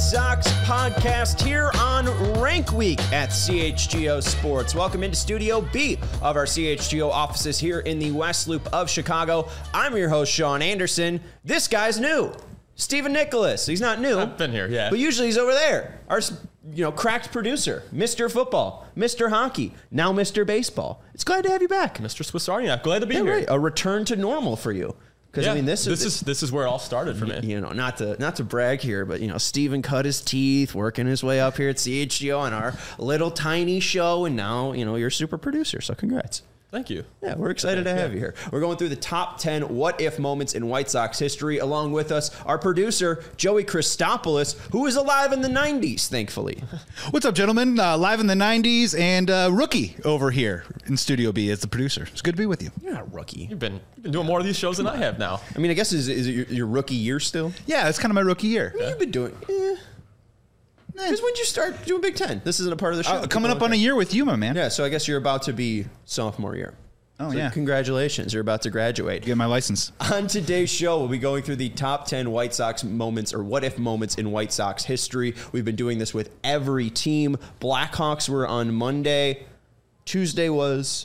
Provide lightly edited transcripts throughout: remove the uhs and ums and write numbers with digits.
White Sox podcast here on Rank Week at CHGO Sports. Welcome into Studio B of our CHGO offices here in the West Loop of Chicago. I'm your host, Sean Anderson. This guy's new, Stephen Nicholas. He's not new. I've been here, yeah. But usually he's over there. Our, cracked producer, Mr. Football, Mr. Hockey, now Mr. Baseball. It's glad to have you back. Mr. Swiss Army Knife. Glad to be here. Right. A return to normal for you. Because yeah, this is where it all started for me. Not to brag here, but Steven cut his teeth, working his way up here at CHGO on our little tiny show, and now you're a super producer. So congrats. Thank you. Yeah, we're excited to have you here. We're going through the top 10 what-if moments in White Sox history. Along with us, our producer, Joey Christopoulos, who was alive in the 90s, thankfully. What's up, gentlemen? Live in the 90s, and Rookie over here in Studio B as the producer. It's good to be with you. You're not a rookie. You've been doing more of these shows than I have now. I mean, I guess, is it your rookie year still? Yeah, it's kind of my rookie year. I mean, you've been doing... Because when did you start doing Big Ten? This isn't a part of the show. Coming up on a year with you, my man. Yeah, so I guess you're about to be sophomore year. Oh, so yeah. Congratulations. You're about to graduate. Get my license. On today's show, we'll be going through the top 10 White Sox moments or what-if moments in White Sox history. We've been doing this with every team. Blackhawks were on Monday. Tuesday was...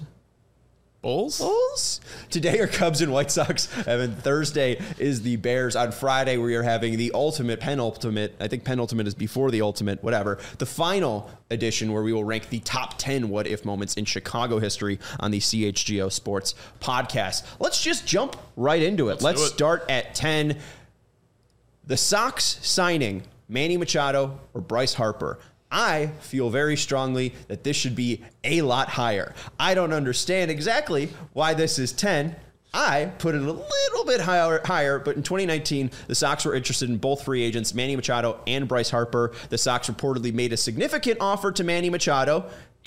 Bulls? Today are Cubs and White Sox. And then Thursday is the Bears. On Friday, we are having the penultimate. I think penultimate is before the ultimate, whatever. The final edition where we will rank the top 10 what-if moments in Chicago history on the CHGO Sports podcast. Let's just jump right into it. Let's start at 10. The Sox signing Manny Machado or Bryce Harper. I feel very strongly that this should be a lot higher. I don't understand exactly why this is 10. I put it a little bit higher, but in 2019, the Sox were interested in both free agents, Manny Machado and Bryce Harper. The Sox reportedly made a significant offer to Manny Machado,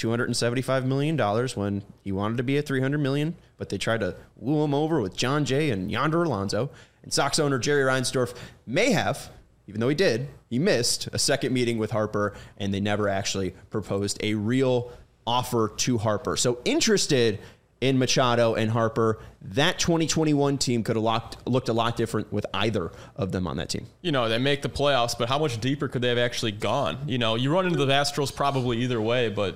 $275 million when he wanted to be at $300 million, but they tried to woo him over with John Jay and Yonder Alonso. And Sox owner Jerry Reinsdorf may have, even though he missed a second meeting with Harper, and they never actually proposed a real offer to Harper. So interested in Machado and Harper. That 2021 team could have looked a lot different with either of them on that team. They make the playoffs, but how much deeper could they have actually gone? You run into the Astros probably either way, but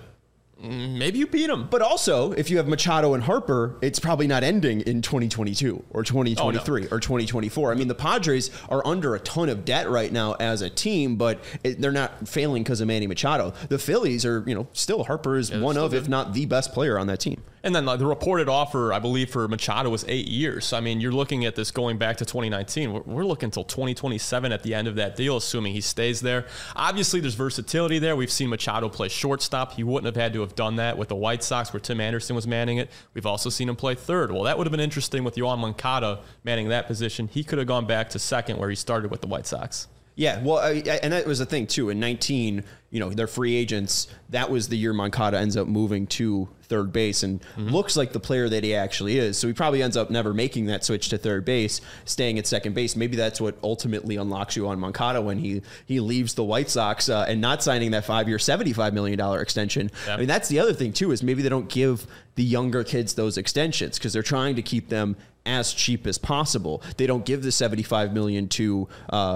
maybe you beat them. But also, if you have Machado and Harper, it's probably not ending in 2022 or 2023 or 2024. I mean, the Padres are under a ton of debt right now as a team, but they're not failing because of Manny Machado. The Phillies are, still Harper is one of, if not the best player on that team. And then the reported offer, I believe, for Machado was 8 years. I mean, you're looking at this going back to 2019. We're looking until 2027 at the end of that deal, assuming he stays there. Obviously, there's versatility there. We've seen Machado play shortstop. He wouldn't have had to have done that with the White Sox where Tim Anderson was manning it. We've also seen him play third. Well, that would have been interesting with Yoan Moncada manning that position. He could have gone back to second where he started with the White Sox. Yeah, well, and that was the thing, too. In 19, they're free agents. That was the year Moncada ends up moving to third base and looks like the player that he actually is. So he probably ends up never making that switch to third base, staying at second base. Maybe that's what ultimately unlocks you on Moncada when he leaves the White Sox and not signing that 5-year, $75 million extension. Yep. I mean, that's the other thing, too, is maybe they don't give the younger kids those extensions because they're trying to keep them as cheap as possible. They don't give the $75 million to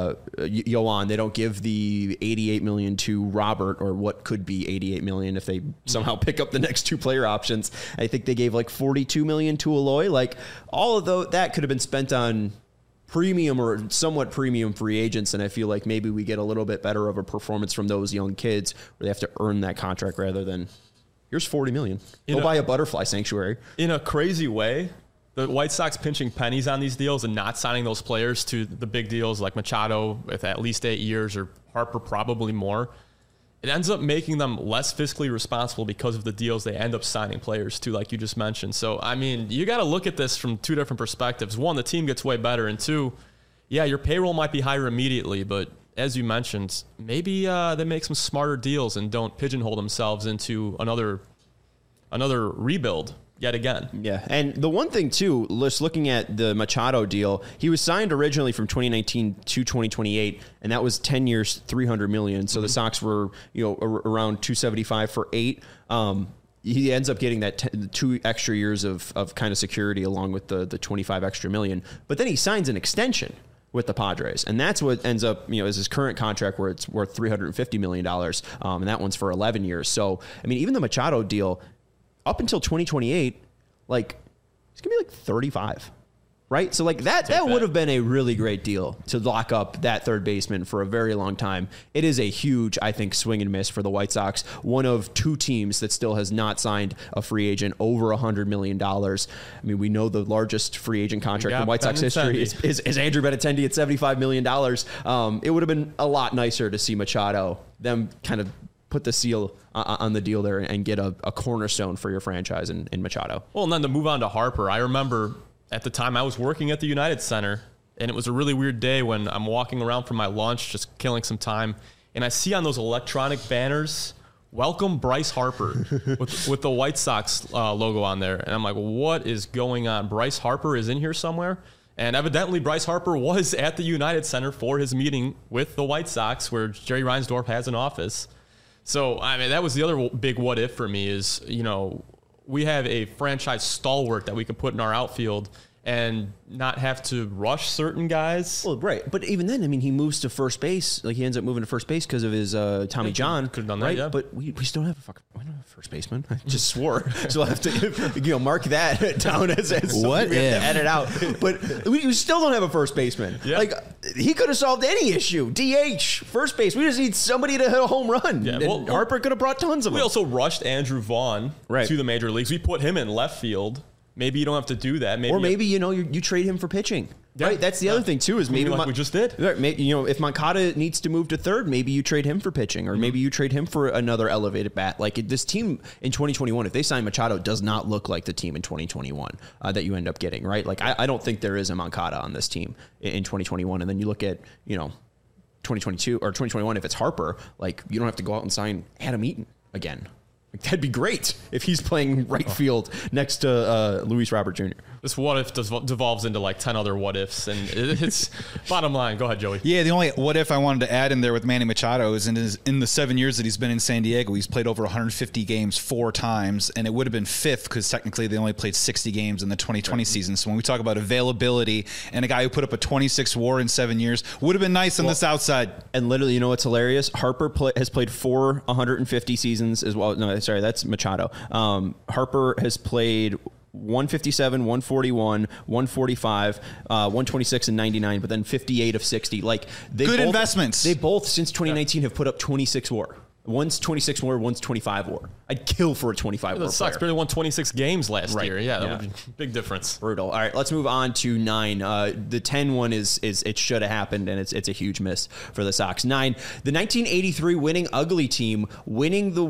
Yoan. They don't give the $88 million to Robert, or what could be $88 million if they somehow pick up the next two player options. I think they gave like $42 million to Eloy. Like all of that could have been spent on premium or somewhat premium free agents, and I feel like maybe we get a little bit better of a performance from those young kids where they have to earn that contract rather than here's $40 million. Go buy a butterfly sanctuary. In a crazy way, the White Sox pinching pennies on these deals and not signing those players to the big deals like Machado with at least 8 years or Harper probably more, it ends up making them less fiscally responsible because of the deals they end up signing players to, like you just mentioned. So, I mean, you got to look at this from two different perspectives. One, the team gets way better. And two, yeah, your payroll might be higher immediately, but as you mentioned, maybe they make some smarter deals and don't pigeonhole themselves into another rebuild yet again. Yeah, and the one thing, too, just looking at the Machado deal, he was signed originally from 2019 to 2028, and that was 10 years, $300 million. So the Sox were, around 275 for 8. He ends up getting that 2 extra years of kind of security along with the 25 extra million. But then he signs an extension with the Padres. And that's what ends up, is his current contract where it's worth $350 million. And that one's for 11 years. So, I mean, even the Machado deal up until 2028, like, it's going to be like 35. Right? So like that would have been a really great deal to lock up that third baseman for a very long time. It is a huge, I think, swing and miss for the White Sox. One of two teams that still has not signed a free agent over $100 million. I mean, we know the largest free agent contract in White Sox history is Andrew Benintendi at $75 million. It would have been a lot nicer to see Machado, them kind of put the seal on the deal there and get a cornerstone for your franchise in Machado. Well, and then to move on to Harper, I remember at the time I was working at the United Center, and it was a really weird day when I'm walking around for my lunch, just killing some time, and I see on those electronic banners, "Welcome Bryce Harper," with the White Sox logo on there. And I'm like, what is going on? Bryce Harper is in here somewhere? And evidently Bryce Harper was at the United Center for his meeting with the White Sox, where Jerry Reinsdorf has an office. So, I mean, that was the other big what if for me is, we have a franchise stalwart that we can put in our outfield and not have to rush certain guys. Well, right. But even then, I mean, he moves to first base. Like, he ends up moving to first base because of his Tommy John. Could have done that, right? yeah. But we still don't have we don't have a first baseman. I just swore. So I'll have to mark that down as what we if? have to edit out. But we still don't have a first baseman. Yeah. Like, he could have solved any issue. DH, first base. We just need somebody to hit a home run. Yeah, And Harper could have brought tons of them. We also rushed Andrew Vaughn to the major leagues. We put him in left field. Maybe you don't have to do that. Maybe you trade him for pitching. Yeah. Right, that's the other thing too. Is maybe like we just did. Right, if Moncada needs to move to third, maybe you trade him for pitching, or maybe you trade him for another elevated bat. Like this team in 2021, if they sign Machado, does not look like the team in 2021 that you end up getting. Right, like I don't think there is a Moncada on this team in 2021. And then you look at 2022 or 2021. If it's Harper, like you don't have to go out and sign Adam Eaton again. Like, that'd be great if he's playing right field next to Luis Robert Jr. This what if devolves into like 10 other what ifs, and it's bottom line. Go ahead, Joey. Yeah, the only what if I wanted to add in there with Manny Machado is in the 7 years that he's been in San Diego, he's played over 150 games 4 times, and it would have been fifth because technically they only played 60 games in the 2020 season. So when we talk about availability and a guy who put up a 26 WAR in 7 years, would have been nice on the South Side. And literally, what's hilarious? Harper has played 4 150 seasons as well. No, sorry, that's Machado. Harper has played 157, 141, 145, 126, and 99, but then 58 of 60. Like good investments. They both, since 2019, have put up 26 WAR. One's 26 WAR, one's 25 WAR. I'd kill for a 25 WAR. The Sox barely won 26 games last year. Yeah, that would be a big difference. Brutal. All right, let's move on to 9. The 10 one is it should have happened, and it's a huge miss for the Sox. 9, the 1983 winning ugly team winning the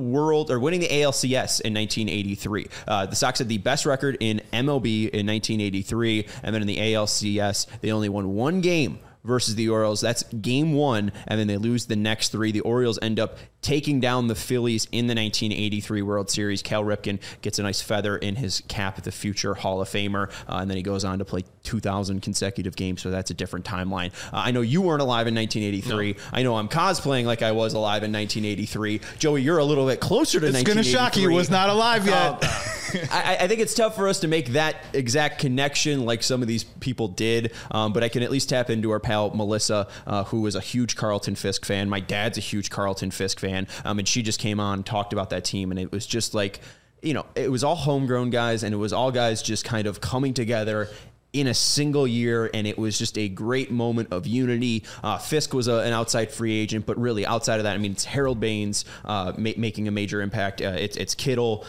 ALCS in 1983. The Sox had the best record in MLB in 1983, and then in the ALCS, they only won 1 game versus the Orioles. That's game 1, and then they lose the next 3. The Orioles end up taking down the Phillies in the 1983 World Series. Cal Ripken gets a nice feather in his cap, the future Hall of Famer, and then he goes on to play 2,000 consecutive games, so that's a different timeline. I know you weren't alive in 1983. No. I know I'm cosplaying like I was alive in 1983. Joey, you're a little bit closer to 1983. It's going to shock you. Was not alive yet. I think it's tough for us to make that exact connection like some of these people did, but I can at least tap into our pal Melissa, who is a huge Carlton Fisk fan. My dad's a huge Carlton Fisk fan, and she just came on, talked about that team, and it was just like, it was all homegrown guys, and it was all guys just kind of coming together in a single year, and it was just a great moment of unity. Fisk was an outside free agent, but really outside of that, I mean, it's Harold Baines making a major impact. It's Kittle,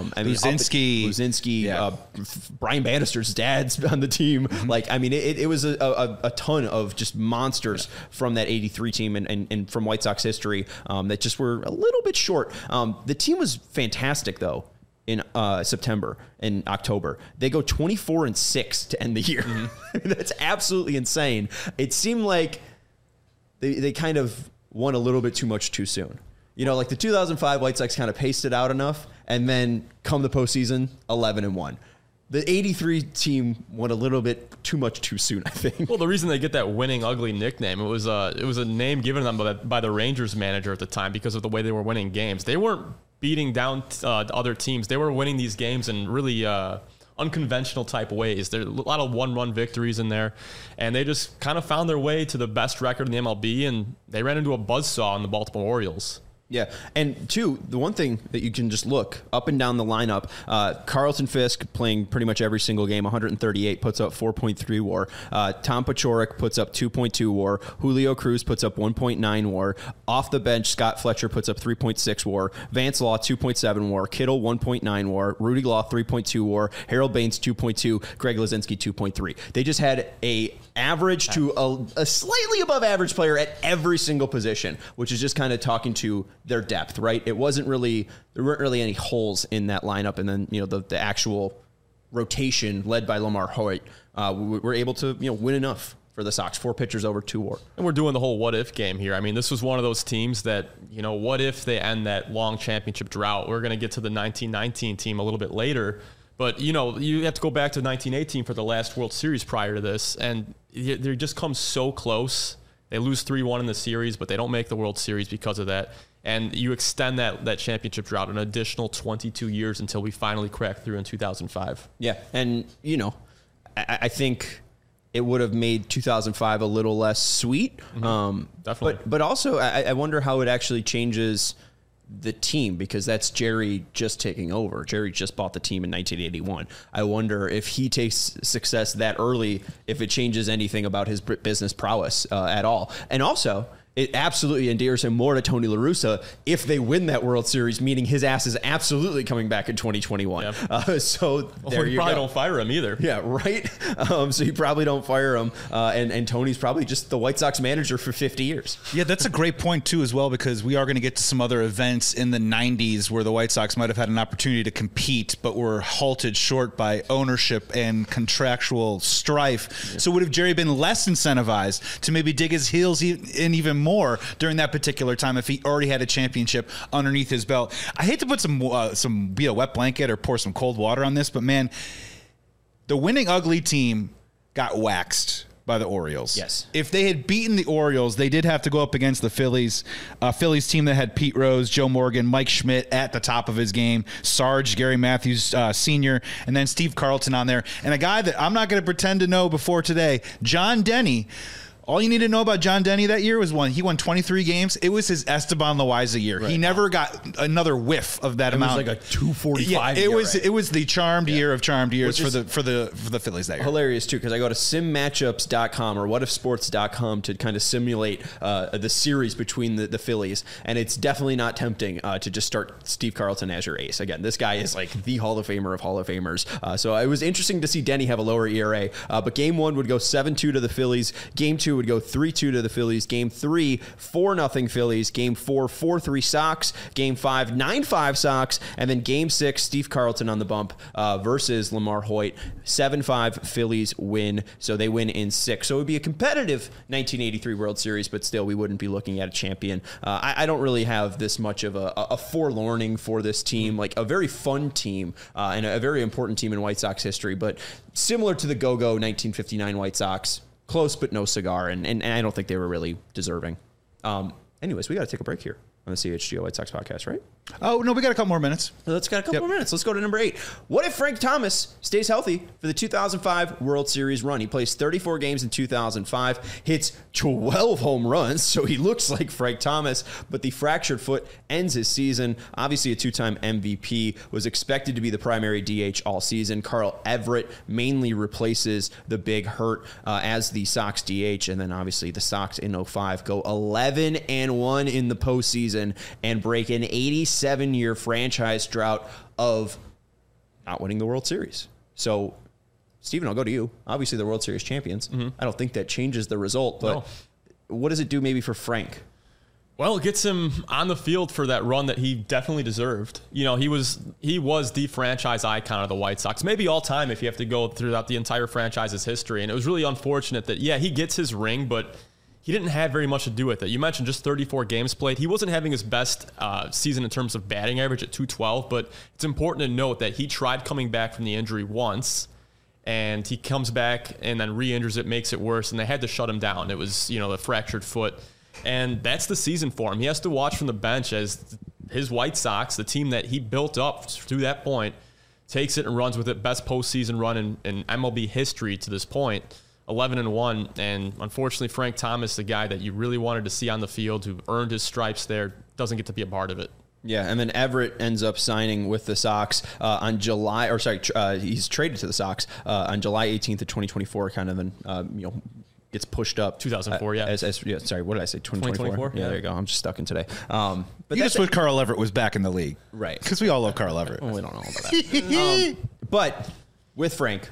Luzinski, yeah. Brian Bannister's dad's on the team. Mm-hmm. Like, I mean, it was a ton of just monsters from that 83 team and from White Sox history that just were a little bit short. The team was fantastic, though. In September and October, they go 24-6 to end the year. Mm-hmm. That's absolutely insane. It seemed like they kind of won a little bit too much too soon. Like the 2005 White Sox kind of paced it out enough, and then come the postseason, 11-1. The 83 team won a little bit too much too soon, I think. Well, the reason they get that winning ugly nickname, it was a name given them by the Rangers manager at the time because of the way they were winning games. They weren't beating down other teams. They were winning these games and really unconventional type ways. There's a lot of one-run victories in there, and they just kind of found their way to the best record in the MLB, and they ran into a buzzsaw in the Baltimore Orioles. Yeah, and two, the one thing that you can just look up and down the lineup, Carlton Fisk playing pretty much every single game, 138, puts up 4.3 WAR. Tom Paciorek puts up 2.2 WAR. Julio Cruz puts up 1.9 WAR. Off the bench, Scott Fletcher puts up 3.6 WAR. Vance Law, 2.7 WAR. Kittle, 1.9 WAR. Rudy Law, 3.2 WAR. Harold Baines, 2.2. Greg Luzinski, 2.3. They just had a average to a slightly above average player at every single position, which is just kind of talking to their depth, right? There weren't really any holes in that lineup. And then, the actual rotation led by Lamar Hoyt, were able to, win enough for the Sox. 4 pitchers over 2 WAR. And we're doing the whole what if game here. I mean, this was one of those teams that, what if they end that long championship drought? We're going to get to the 1919 team a little bit later. But, you have to go back to 1918 for the last World Series prior to this. And they just come so close. They lose 3-1 in the series, but they don't make the World Series because of that. And you extend that championship drought an additional 22 years until we finally crack through in 2005. Yeah. And, I think it would have made 2005 a little less sweet. Definitely. But also, I wonder how it actually changes the team, because that's Jerry just taking over. Jerry just bought the team in 1981. I wonder if he takes success that early, if it changes anything about his business prowess at all. And also, it absolutely endears him more to Tony La Russa if they win that World Series, meaning his ass is absolutely coming back in 2021. Yep. So there you probably go. don't fire him either. Yeah, right? So you probably don't fire him. And Tony's probably just the White Sox manager for 50 years. Yeah, that's a great point, too, as well, because we are going to get to some other events in the 90s where the White Sox might have had an opportunity to compete, but were halted short by ownership and contractual strife. Yeah. So would have Jerry been less incentivized to maybe dig his heels in even more during that particular time if he already had a championship underneath his belt? I hate to put be a wet blanket or pour some cold water on this, but man, the winning ugly team got waxed by the Orioles. Yes. If they had beaten the Orioles, they did have to go up against the Phillies. Phillies team that had Pete Rose, Joe Morgan, Mike Schmidt at the top of his game, Sarge, Gary Matthews Sr., and then Steve Carlton on there. And a guy that I'm not going to pretend to know before today, John Denny. All you need to know about John Denny that year was he won 23 games. It was his Esteban Loaiza year. Right. He never got another whiff of that amount. It was like a 245. Yeah, it was the charmed year of charmed years for the Phillies that year. Hilarious too, because I go to simmatchups.com or whatifsports.com to kind of simulate the series between the Phillies, and it's definitely not tempting to just start Steve Carlton as your ace. Again, this guy is like the Hall of Famer of Hall of Famers. So it was interesting to see Denny have a lower ERA. But game 1 would go 7-2 to the Phillies. Game 2 would go 3-2 to the Phillies. Game 3, 4-0 Phillies. Game 4, 4-3 Sox. Game 5, 9-5 Sox. And then Game 6, Steve Carlton on the bump versus Lamar Hoyt. 7-5 Phillies win. So they win in 6. So it would be a competitive 1983 World Series, but still we wouldn't be looking at a champion. I don't really have this much of a forlorning for this team. Like a very fun team and a very important team in White Sox history, but similar to the go-go 1959 White Sox. Close, but no cigar, and I don't think they were really deserving. Anyways, we got to take a break here on the CHGO White Sox podcast, right? Oh, no, we got a couple more minutes. Let's got a couple more minutes. Let's go to number 8. What if Frank Thomas stays healthy for the 2005 World Series run? He plays 34 games in 2005, hits 12 home runs, so he looks like Frank Thomas, but the fractured foot ends his season. Obviously, a 2-time MVP, was expected to be the primary DH all season. Carl Everett mainly replaces the big hurt as the Sox DH, and then obviously the Sox in 05 go 11-1 in the postseason and break an 87-year franchise drought of not winning the World Series. So, Steven, I'll go to you. Obviously, the World Series champions. Mm-hmm. I don't think that changes the result, but what does it do maybe for Frank? Well, it gets him on the field for that run that he definitely deserved. He was the franchise icon of the White Sox, maybe all time if you have to go throughout the entire franchise's history. And it was really unfortunate that, he gets his ring, but he didn't have very much to do with it. You mentioned just 34 games played. He wasn't having his best season in terms of batting average at .212, but it's important to note that he tried coming back from the injury once, and he comes back and then re-injures it, makes it worse, and they had to shut him down. It was, the fractured foot, and that's the season for him. He has to watch from the bench as his White Sox, the team that he built up to that point, takes it and runs with it. Best postseason run in MLB history to this point, 11-1. And unfortunately, Frank Thomas, the guy that you really wanted to see on the field, who earned his stripes there, doesn't get to be a part of it. Yeah, and then Everett ends up signing with the Sox on he's traded to the Sox on July 18th of 2024, kind of, and gets pushed up. 2004, yeah. Sorry, what did I say? 2024? Yeah, there you go. I'm just stuck in today. But you just wish Carl Everett was back in the league. Right. Because we all love Carl Everett. Well, we don't know about that. But with Frank,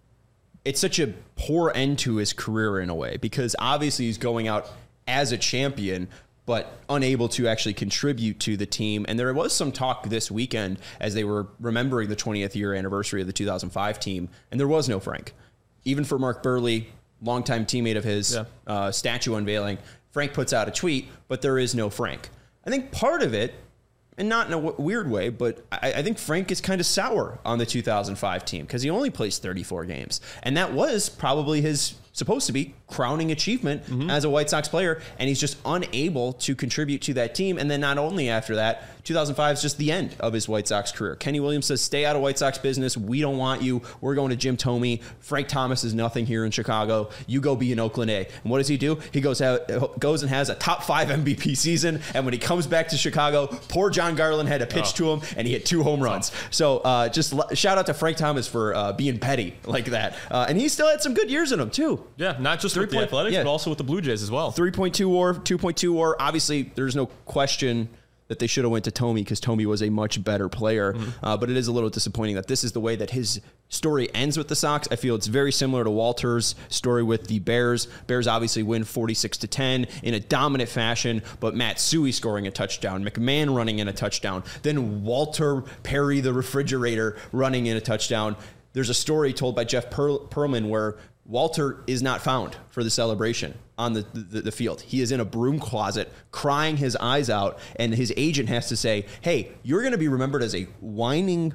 it's such a poor end to his career in a way, because obviously he's going out as a champion, but unable to actually contribute to the team. And there was some talk this weekend as they were remembering the 20th year anniversary of the 2005 team, and there was no Frank. Even for Mark Burley, longtime teammate of his, statue unveiling, Frank puts out a tweet, but there is no Frank. I think part of it, and not in a weird way, but I think Frank is kind of sour on the 2005 team because he only plays 34 games. And that was probably his supposed to be crowning achievement as a White Sox player, and he's just unable to contribute to that team. And then not only after that, 2005 is just the end of his White Sox career. Kenny Williams says, stay out of White Sox business. We don't want you. We're going to Jim Thome. Frank Thomas is nothing here in Chicago. You go be in Oakland A. And what does he do? He goes and has a top 5 MVP season. And when he comes back to Chicago, poor John Garland had to pitch to him, and he hit 2 home runs. So just shout out to Frank Thomas for being petty like that. And he still had some good years in him, too. Yeah, not just with the Athletics, but also with the Blue Jays as well. 3.2 WAR, 2.2 WAR. Obviously, there's no question that they should have went to Thome because Thome was a much better player. But it is a little disappointing that this is the way that his story ends with the Sox. I feel it's very similar to Walter's story with the Bears. Bears obviously win 46-10 in a dominant fashion, but Matsui scoring a touchdown, McMahon running in a touchdown, then Walter Perry, the refrigerator, running in a touchdown. There's a story told by Jeff Pearlman where Walter is not found for the celebration on the field. He is in a broom closet crying his eyes out, and his agent has to say, hey, you're going to be remembered as a whining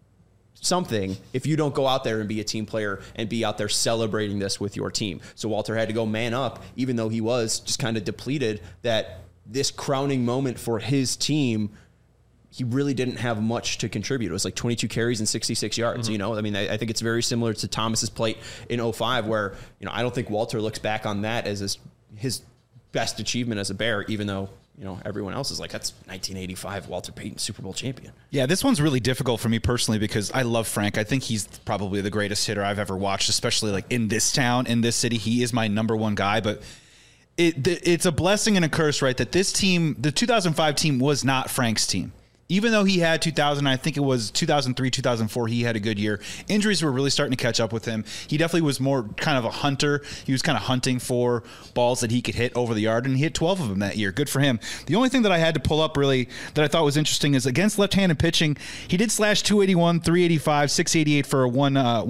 something if you don't go out there and be a team player and be out there celebrating this with your team. So Walter had to go man up, even though he was just kind of depleted, that this crowning moment for his team, he really didn't have much to contribute. It was like 22 carries and 66 yards. I mean, I think it's very similar to Thomas's plate in 05, where, I don't think Walter looks back on that as his best achievement as a Bear, even though, everyone else is like, that's 1985 Walter Payton Super Bowl champion. Yeah, this one's really difficult for me personally because I love Frank. I think he's probably the greatest hitter I've ever watched, especially like in this town, in this city. He is my number one guy, but it's a blessing and a curse, right? That this team, the 2005 team, was not Frank's team. Even though he had I think it was 2003, 2004, he had a good year. Injuries were really starting to catch up with him. He definitely was more kind of a hunter. He was kind of hunting for balls that he could hit over the yard, and he hit 12 of them that year. Good for him. The only thing that I had to pull up really that I thought was interesting is against left-handed pitching, he did slash 281, 385, 688 for a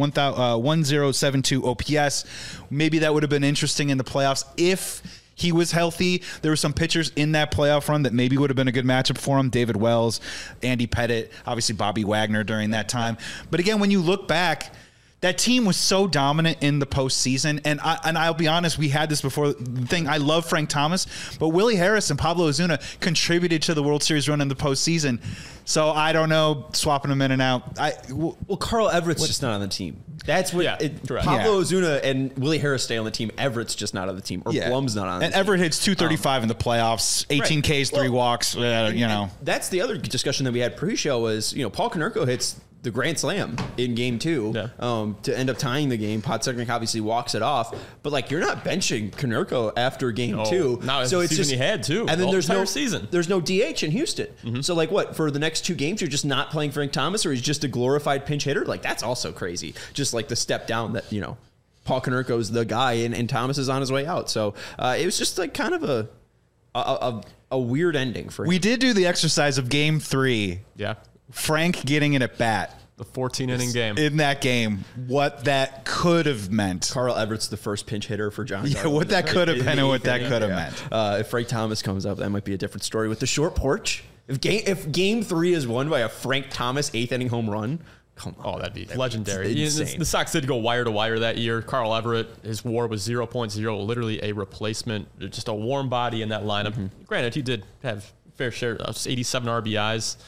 1072 OPS. Maybe that would have been interesting in the playoffs if he was healthy. There were some pitchers in that playoff run that maybe would have been a good matchup for him. David Wells, Andy Pettitte, obviously Bobby Wagner during that time. But again, when you look back, that team was so dominant in the postseason. And I'll be honest, we had this before the thing. I love Frank Thomas, but Willie Harris and Pablo Ozuna contributed to the World Series run in the postseason. So I don't know, swapping them in and out. Well, Carl Everett's just not on the team. That's what Pablo Ozuna and Willie Harris stay on the team. Everett's just not on the team, or Blum's not on the team. And Everett hits 235 in the playoffs, 18 Ks, 3 walks. That's the other discussion that we had pre-show was, Paul Konerko hits the grand slam in game 2 to end up tying the game. Podsednik obviously walks it off, but you're not benching Konerko after game 2. No, so it's just he had too. And then there's no season. There's no DH in Houston. So what for the next 2 games you're just not playing Frank Thomas, or he's just a glorified pinch hitter? That's also crazy. Just the step down that Paul Konerko's the guy and Thomas is on his way out. So it was just kind of a weird ending for him. We did do the exercise of game 3. Yeah. Frank getting an at-bat. The 14-inning game. In that game, what that could have meant. Carl Everett's the first pinch hitter for John. Yeah, what that could have been and what that could have meant. If Frank Thomas comes up, that might be a different story. With the short porch, if game 3 is won by a Frank Thomas 8th-inning home run, come on. Oh, that'd be legendary. Insane. The Sox did go wire to wire that year. Carl Everett, his WAR was 0.0, literally a replacement, just a warm body in that lineup. Granted, he did have fair share of 87 RBIs.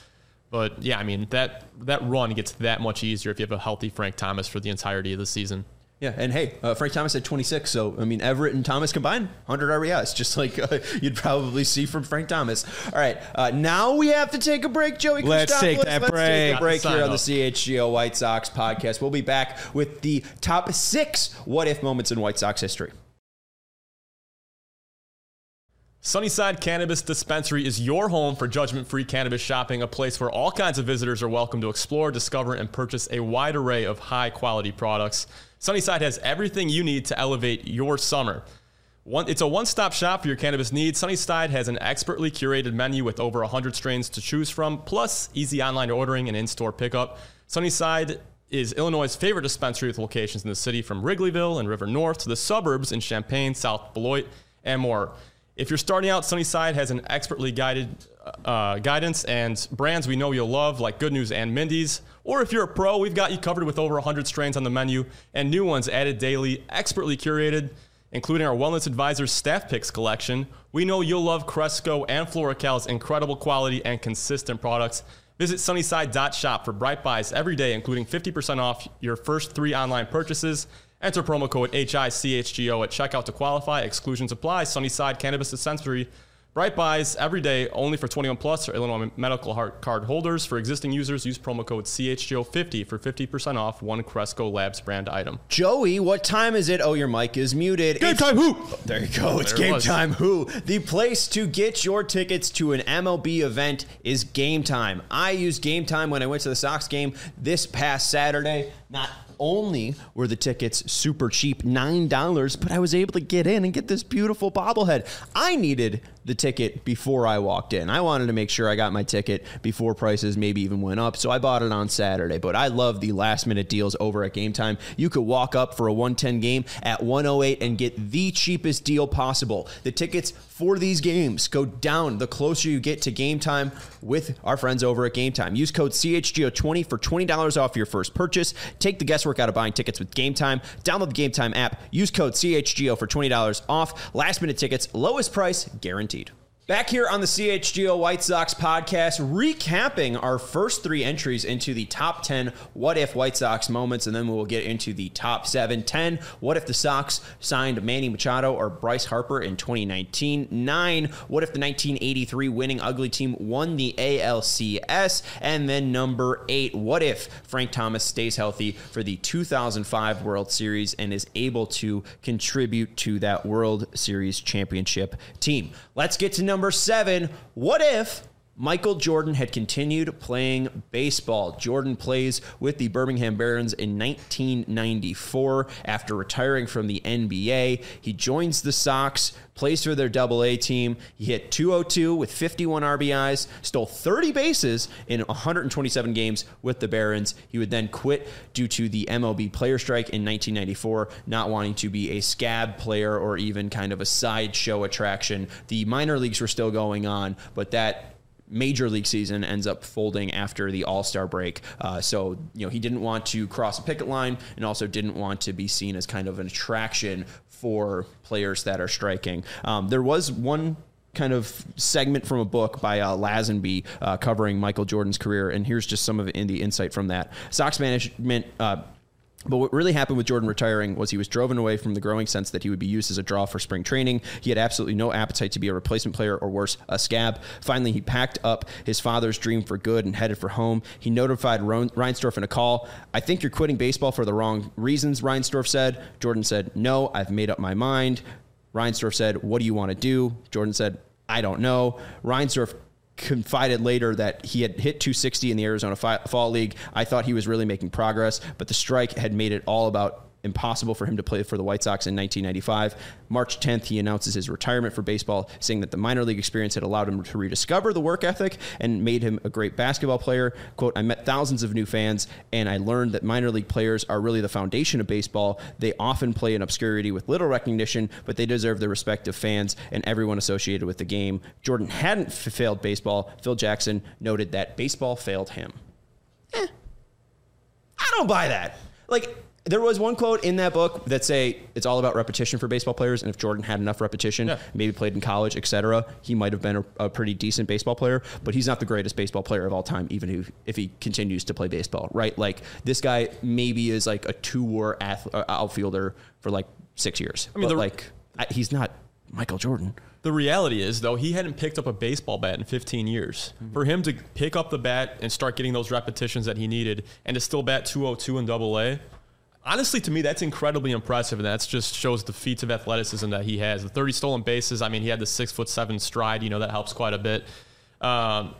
But yeah, I mean, that run gets that much easier if you have a healthy Frank Thomas for the entirety of the season. Yeah, and hey, Frank Thomas had 26, so, I mean, Everett and Thomas combined, 100 RBIs, just like you'd probably see from Frank Thomas. All right, now we have to take a break, Joey. Let's take that break. Let's take a break here on the CHGO White Sox podcast. We'll be back with the top 6 what-if moments in White Sox history. Sunnyside Cannabis Dispensary is your home for judgment-free cannabis shopping, a place where all kinds of visitors are welcome to explore, discover, and purchase a wide array of high-quality products. Sunnyside has everything you need to elevate your summer. It's a one-stop shop for your cannabis needs. Sunnyside has an expertly curated menu with over 100 strains to choose from, plus easy online ordering and in-store pickup. Sunnyside is Illinois' favorite dispensary with locations in the city, from Wrigleyville and River North to the suburbs in Champaign, South Beloit, and more. If you're starting out, Sunnyside has an expertly guided guidance and brands we know you'll love, like Good News and Mindy's. Or if you're a pro, we've got you covered with over 100 strains on the menu and new ones added daily, expertly curated, including our Wellness Advisors Staff Picks collection. We know you'll love Cresco and FloraCal's incredible quality and consistent products. Visit sunnyside.shop for bright buys every day, including 50% off your first 3 online purchases. Enter promo code HICHGO at checkout to qualify. Exclusions apply. Sunnyside Cannabis Dispensary. Bright buys every day, only for 21 plus or Illinois medical card holders. For existing users, use promo code CHGO50 for 50% off one Cresco Labs brand item. Joey, what time is it? Oh, your mic is muted. Game Time Who? There you go. It's Game Time Who. The place to get your tickets to an MLB event is Game Time. I used Game Time when I went to the Sox game this past Saturday. Not only were the tickets super cheap, $9, but I was able to get in and get this beautiful bobblehead. I needed the ticket before I walked in. I wanted to make sure I got my ticket before prices maybe even went up, so I bought it on Saturday. But I love the last-minute deals over at Game Time. You could walk up for a 110 game at 108 and get the cheapest deal possible. The tickets for these games go down the closer you get to Game Time with our friends over at Game Time. Use code CHGO20 for $20 off your first purchase. Take the guesswork out of buying tickets with Game Time. Download the Game Time app. Use code CHGO for $20 off. Last-minute tickets, lowest price guaranteed. Back here on the CHGO White Sox podcast, recapping our first 3 entries into the top 10 what-if White Sox moments, and then we will get into the top 7. 10, what if the Sox signed Manny Machado or Bryce Harper in 2019? 9, what if the 1983 winning ugly team won the ALCS? And then number 8, what if Frank Thomas stays healthy for the 2005 World Series and is able to contribute to that World Series championship team? Let's get to number 7. What if Michael Jordan had continued playing baseball? Jordan plays with the Birmingham Barons in 1994 after retiring from the NBA. He joins the Sox, plays for their AA team. He hit .202 with 51 RBIs, stole 30 bases in 127 games with the Barons. He would then quit due to the MLB player strike in 1994, not wanting to be a scab player or even kind of a sideshow attraction. The minor leagues were still going on, but that major league season ends up folding after the All-Star break. So, he didn't want to cross a picket line and also didn't want to be seen as kind of an attraction for players that are striking. There was one kind of segment from a book by Lazenby covering Michael Jordan's career, and here's just some of the insight from that. Sox management But what really happened with Jordan retiring was he was driven away from the growing sense that he would be used as a draw for spring training. He had absolutely no appetite to be a replacement player or worse, a scab. Finally, he packed up his father's dream for good and headed for home. He notified Reinsdorf in a call. "I think you're quitting baseball for the wrong reasons," Reinsdorf said. Jordan said, "No, I've made up my mind." Reinsdorf said, "What do you want to do?" Jordan said, "I don't know." Reinsdorf confided later that he had hit 260 in the Arizona Fall League. "I thought he was really making progress, but the strike had made it all about impossible for him to play for the White Sox in 1995. March 10th, he announces his retirement for baseball, saying that the minor league experience had allowed him to rediscover the work ethic and made him a great basketball player. Quote, "I met thousands of new fans, and I learned that minor league players are really the foundation of baseball. They often play in obscurity with little recognition, but they deserve the respect of fans and everyone associated with the game." Jordan hadn't failed baseball. Phil Jackson noted that baseball failed him. I don't buy that. Like, there was one quote in that book that say it's all about repetition for baseball players, and if Jordan had enough repetition, maybe played in college, etc., he might have been a pretty decent baseball player. But he's not the greatest baseball player of all time, even if he continues to play baseball, right? Like this guy maybe is like a two-war outfielder for like 6 years. I mean, he's not Michael Jordan. The reality is, though, he hadn't picked up a baseball bat in 15 years. Mm-hmm. For him to pick up the bat and start getting those repetitions that he needed and to still bat 202 in AA, honestly, to me, that's incredibly impressive. And that just shows the feats of athleticism that he has. The 30 stolen bases, I mean, he had the 6'7" stride, that helps quite a bit. And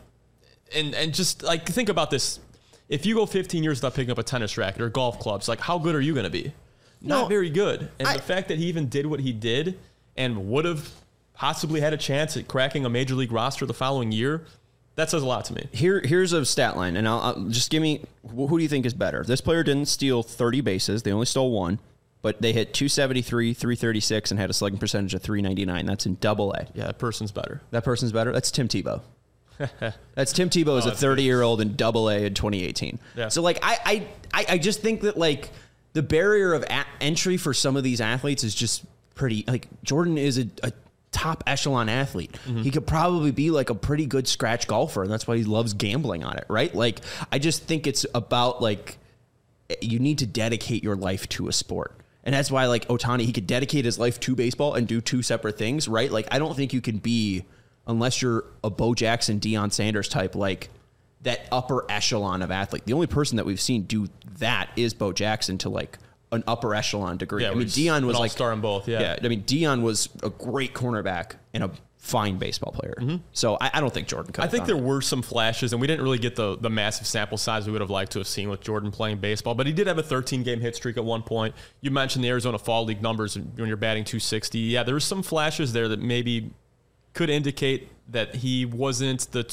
just like, think about this. If you go 15 years without picking up a tennis racket or golf clubs, like how good are you going to be? Not very good. And the fact that he even did what he did and would have possibly had a chance at cracking a major league roster the following year, that says a lot to me. Here's a stat line, and I'll just give me, who do you think is better? This player didn't steal 30 bases. They only stole one, but they hit 273, 336, and had a slugging percentage of 399. That's in AA. Yeah, that person's better. That person's better? That's Tim Tebow. That's Tim Tebow as a 30-year-old in AA in 2018. Yeah. So, like, I just think that, like, the barrier of entry for some of these athletes is just pretty, like, Jordan is a top echelon athlete. Mm-hmm. He could probably be like a pretty good scratch golfer, and that's why he loves gambling on it, right? Like, I just think it's about, like, you need to dedicate your life to a sport. And that's why, like, Ohtani, he could dedicate his life to baseball and do two separate things, right? Like, I don't think you can be, unless you're a Bo Jackson, Deion Sanders type, like, that upper echelon of athlete. The only person that we've seen do that is Bo Jackson to, like, an upper echelon degree. Yeah, I mean, Deion was like star in both. Yeah. I mean, Deion was a great cornerback and a fine baseball player. Mm-hmm. So I don't think Jordan could. I think there were some flashes, and we didn't really get the massive sample size we would have liked to have seen with Jordan playing baseball. But he did have a 13-game hit streak at one point. You mentioned the Arizona Fall League numbers when you're batting 260. Yeah, there were some flashes there that maybe could indicate that he wasn't the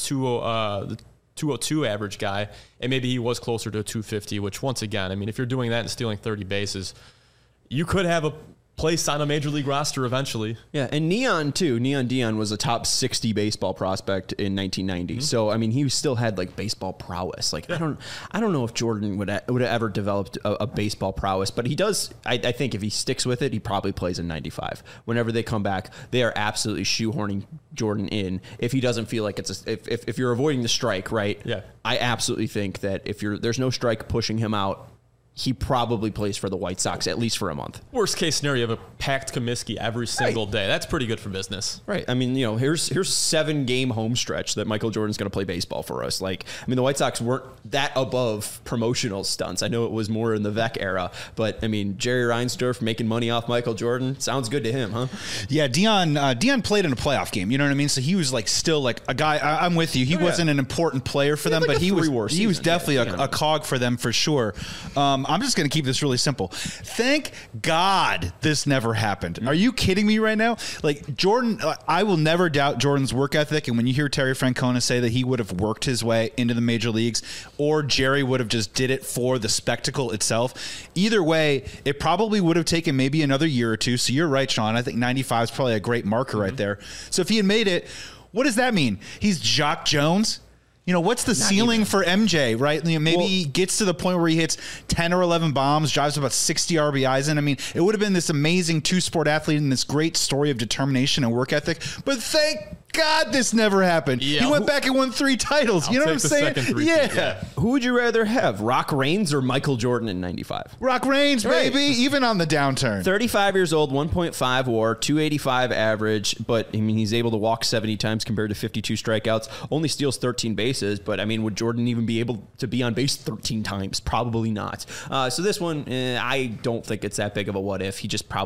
202 average guy, and maybe he was closer to a 250, which once again, I mean, if you're doing that and stealing 30 bases, you could have a place on a major league roster eventually. Yeah, and Neon too. Neon Deion was a top 60 baseball prospect in 1990. Mm-hmm. So I mean, he still had like baseball prowess. Like I don't know if Jordan would have ever developed a baseball prowess, but he does. I think if he sticks with it, he probably plays in 95. Whenever they come back, they are absolutely shoehorning Jordan in. If he doesn't feel like it's if you're avoiding the strike, right? Yeah, I absolutely think that if there's no strike pushing him out, he probably plays for the White Sox at least for a month. Worst case scenario, you have a packed Comiskey every single day. That's pretty good for business. Right. I mean, here's 7-game home stretch that Michael Jordan's going to play baseball for us. Like, I mean, the White Sox weren't that above promotional stunts. I know it was more in the Vec era, but I mean, Jerry Reinsdorf making money off Michael Jordan sounds good to him, huh? Yeah, Deion played in a playoff game. You know what I mean? So he was like still like a guy. I'm with you. He wasn't an important player for them, like, but he was definitely a cog for them for sure. I'm just going to keep this really simple. Thank God this never happened. Are you kidding me right now? Like Jordan, I will never doubt Jordan's work ethic. And when you hear Terry Francona say that he would have worked his way into the major leagues, or Jerry would have just did it for the spectacle itself, either way, it probably would have taken maybe another year or two. So you're right, Sean. I think 95 is probably a great marker right there. So if he had made it, what does that mean? He's Jock Jones? What's the ceiling for MJ, right? Maybe he gets to the point where he hits 10 or 11 bombs, drives about 60 RBIs in. I mean, it would have been this amazing two-sport athlete and this great story of determination and work ethic. But thank God this never happened. Yeah, he went back and won 3 titles. You know what I'm saying? Yeah. Who would you rather have, Rock Raines or Michael Jordan in 95? Rock Raines, baby, even on the downturn. 35 years old, 1.5 WAR, 285 average, but I mean, he's able to walk 70 times compared to 52 strikeouts, only steals 13 bases. But I mean, would Jordan even be able to be on base 13 times? Probably not. So this one, I don't think it's that big of a what if.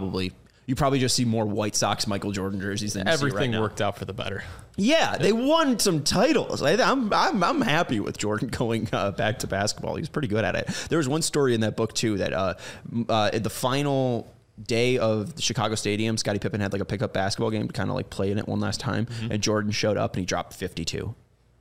You probably just see more White Sox Michael Jordan jerseys than everything you see right now. Worked out for the better. Yeah, they won some titles. I'm happy with Jordan going back to basketball. He's pretty good at it. There was one story in that book too that at the final day of the Chicago Stadium, Scottie Pippen had like a pickup basketball game to kind of like play in it one last time, and Jordan showed up and he dropped 52.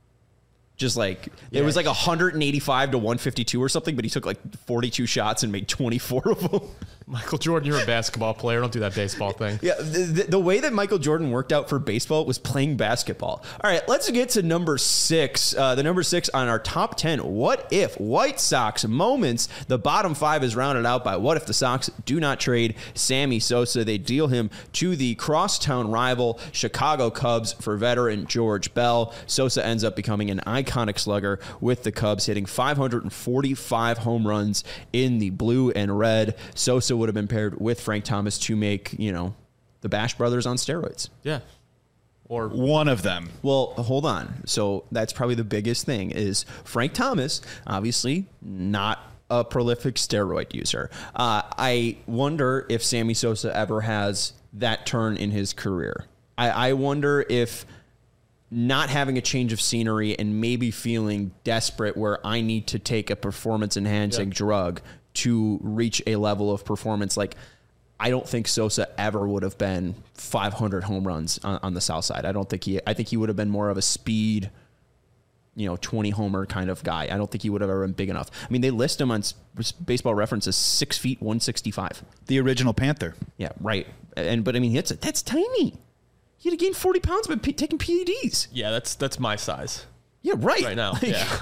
Just like, it was like 185 to 152 or something, but he took like 42 shots and made 24 of them. Michael Jordan, you're a basketball player. Don't do that baseball thing. Yeah, the way that Michael Jordan worked out for baseball was playing basketball. All right, let's get to number 6. The number 6 on our top 10 what if White Sox moments. The bottom 5 is rounded out by what if the Sox do not trade Sammy Sosa. They deal him to the crosstown rival Chicago Cubs for veteran George Bell. Sosa ends up becoming an iconic slugger with the Cubs, hitting 545 home runs in the blue and red. Sosa would have been paired with Frank Thomas to make, the Bash Brothers on steroids. Yeah. Or one of them. Well, hold on. So that's probably the biggest thing is Frank Thomas, obviously not a prolific steroid user. I wonder if Sammy Sosa ever has that turn in his career. I wonder if not having a change of scenery and maybe feeling desperate where I need to take a performance-enhancing drug to reach a level of performance. Like, I don't think Sosa ever would have been 500 home runs on the South Side. I think he would have been more of a speed, 20 homer kind of guy. I don't think he would have ever been big enough. I mean, they list him on Baseball Reference as 6 feet, 165. The original Panther. Yeah, right. But I mean, that's tiny. He had to gain 40 pounds by taking PEDs. Yeah, that's my size. Yeah, right now. Like, yeah.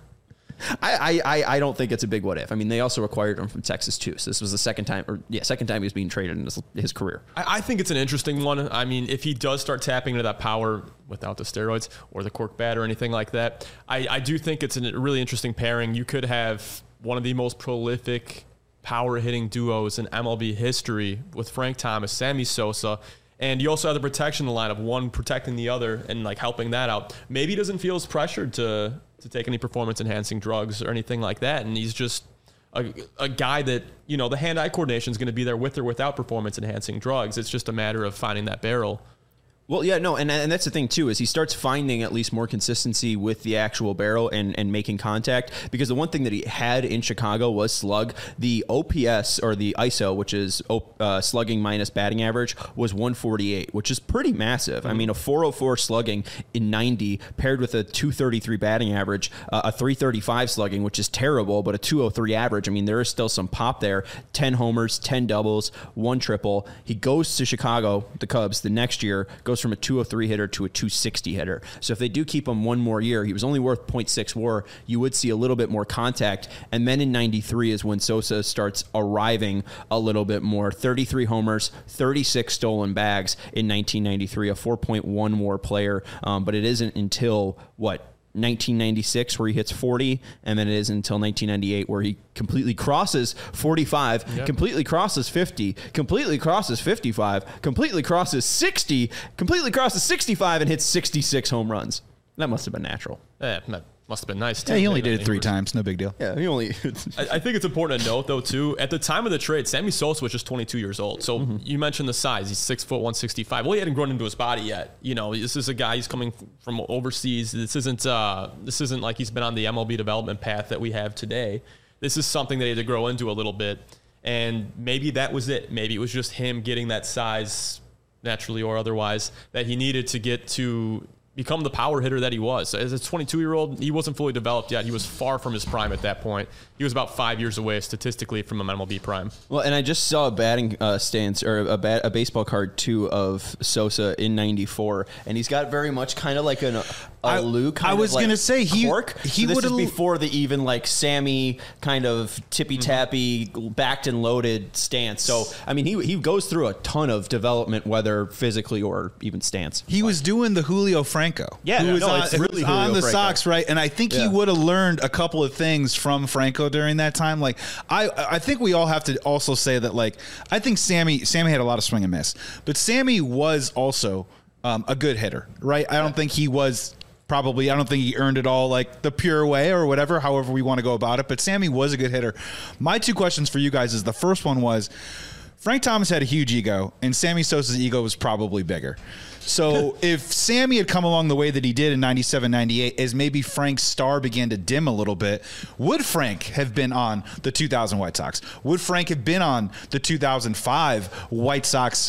I don't think it's a big what if. I mean, they also acquired him from Texas too. So this was the second time he was being traded in his career. I think it's an interesting one. I mean, if he does start tapping into that power without the steroids or the cork bat or anything like that, I do think it's a really interesting pairing. You could have one of the most prolific power hitting duos in MLB history with Frank Thomas, Sammy Sosa. And you also have the protection line of one protecting the other and like helping that out. Maybe he doesn't feel as pressured to take any performance enhancing drugs or anything like that. And he's just a guy that, the hand-eye coordination is going to be there with or without performance enhancing drugs. It's just a matter of finding that barrel. Well, yeah, no, and that's the thing, too, is he starts finding at least more consistency with the actual barrel and making contact, because the one thing that he had in Chicago was slug. The OPS, or the ISO, which is slugging minus batting average, was 148, which is pretty massive. Mm-hmm. I mean, a 404 slugging in 90 paired with a 233 batting average, a 335 slugging, which is terrible, but a 203 average. I mean, there is still some pop there. 10 homers, 10 doubles, 1 triple. He goes to Chicago, the Cubs, the next year, goes from a 203 hitter to a 260 hitter. So if they do keep him one more year, he was only worth 0.6 WAR. You would see a little bit more contact. And then in 93 is when Sosa starts arriving a little bit more. 33 homers, 36 stolen bags in 1993, a 4.1 WAR player. But it isn't until 1996 where he hits 40, and then it is until 1998 where he completely crosses 45, completely crosses 50, completely crosses 55, completely crosses 60, completely crosses 65, and hits 66 home runs. That must have been natural. That must have been nice, too. Yeah, he only did it 3 times. No big deal. Yeah, he only... I think it's important to note, though, too, at the time of the trade, Sammy Sosa was just 22 years old. So you mentioned the size. He's 6 foot, 165. Well, he hadn't grown into his body yet. This is a guy who's coming from overseas. This isn't like he's been on the MLB development path that we have today. This is something that he had to grow into a little bit. And maybe that was it. Maybe it was just him getting that size, naturally or otherwise, that he needed to get to become the power hitter that he was. As a 22-year-old, he wasn't fully developed yet. He was far from his prime at that point. He was about 5 years away statistically from a MLB prime. Well, and I just saw a batting stance, or a baseball card too, of Sosa in 94, and he's got very much kind of like a Lou kind I was of like gonna say he so this would is have before the even like Sammy kind of tippy-tappy, backed and loaded stance. So I mean, he goes through a ton of development, whether physically or even stance. He was doing the Julio Franco. Yeah, who was no, on, it's who really was Julio on the Franco. Sox, right? And I think he would have learned a couple of things from Franco during that time. Like I think we all have to also say that, like, I think Sammy had a lot of swing and miss, but Sammy was also a good hitter, right? I don't think he was. I don't think he earned it all like the pure way or whatever, however we want to go about it. But Sammy was a good hitter. My 2 questions for you guys is, the first one was, Frank Thomas had a huge ego, and Sammy Sosa's ego was probably bigger. So if Sammy had come along the way that he did in 97, 98, as maybe Frank's star began to dim a little bit, would Frank have been on the 2000 White Sox? Would Frank have been on the 2005 White Sox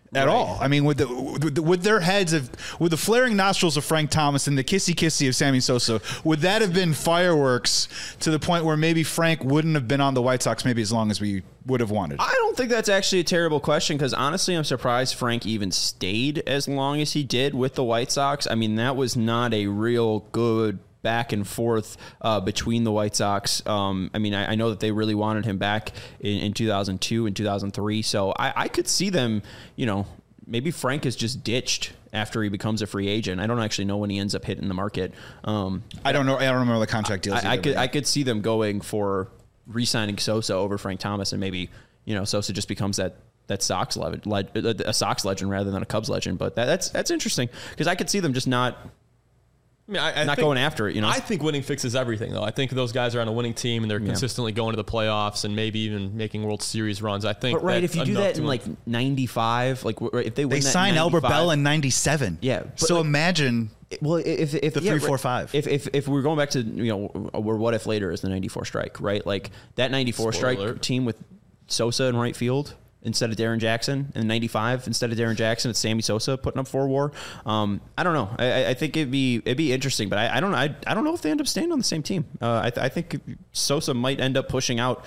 at all. I mean, with their heads with the flaring nostrils of Frank Thomas and the kissy of Sammy Sosa, would that have been fireworks to the point where maybe Frank wouldn't have been on the White Sox maybe as long as we would have wanted? I don't think that's actually a terrible question, because honestly, I'm surprised Frank even stayed as long as he did with the White Sox. I mean, that was not a real good back and forth between the White Sox. I mean, I know that they really wanted him back in 2002 and 2003. So I could see them, maybe Frank is just ditched after he becomes a free agent. I don't actually know when he ends up hitting the market. I don't know. I don't remember the contract deals. I could see them going for re-signing Sosa over Frank Thomas, and maybe, Sosa just becomes that Sox a Sox legend rather than a Cubs legend. But that's interesting, because I could see them just not not going after it, I think winning fixes everything, though. I think those guys are on a winning team and they're consistently going to the playoffs and maybe even making World Series runs. I think. But if you do that in like 95, like if they win, they signed Albert Bell in 97. Yeah. So imagine. Well, if the 3-4-5. If we're going back to where what if later is the 94 strike, right? Like that 94 strike team with Sosa in right field instead of Darren Jackson, and 95 instead of Darren Jackson, it's Sammy Sosa putting up 4 WAR. I don't know. I think it'd be interesting, but I don't know if they end up staying on the same team. I think Sosa might end up pushing out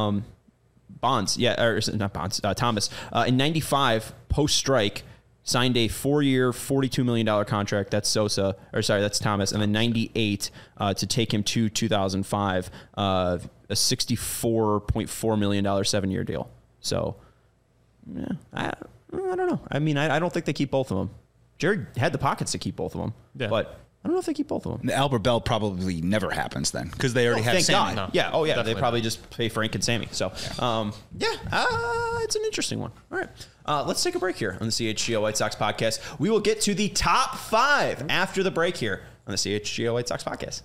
Bonds. Yeah, or not Bonds. Thomas in 95 post strike. Signed a 4-year, $42 million contract. That's Sosa, or sorry, that's Thomas. And then 98 to take him to 2005, a $64.4 million 7-year deal. So, yeah, I don't know. I mean, I don't think they keep both of them. Jared had the pockets to keep both of them, but I don't know if they keep both of them. The Albert Bell probably never happens then, because they already have thank Sammy. God. No, yeah. Oh, yeah. Definitely they probably just pay Frank and Sammy. So, it's an interesting one. All right. Let's take a break here on the CHGO White Sox podcast. We will get to the top 5 after the break here on the CHGO White Sox podcast.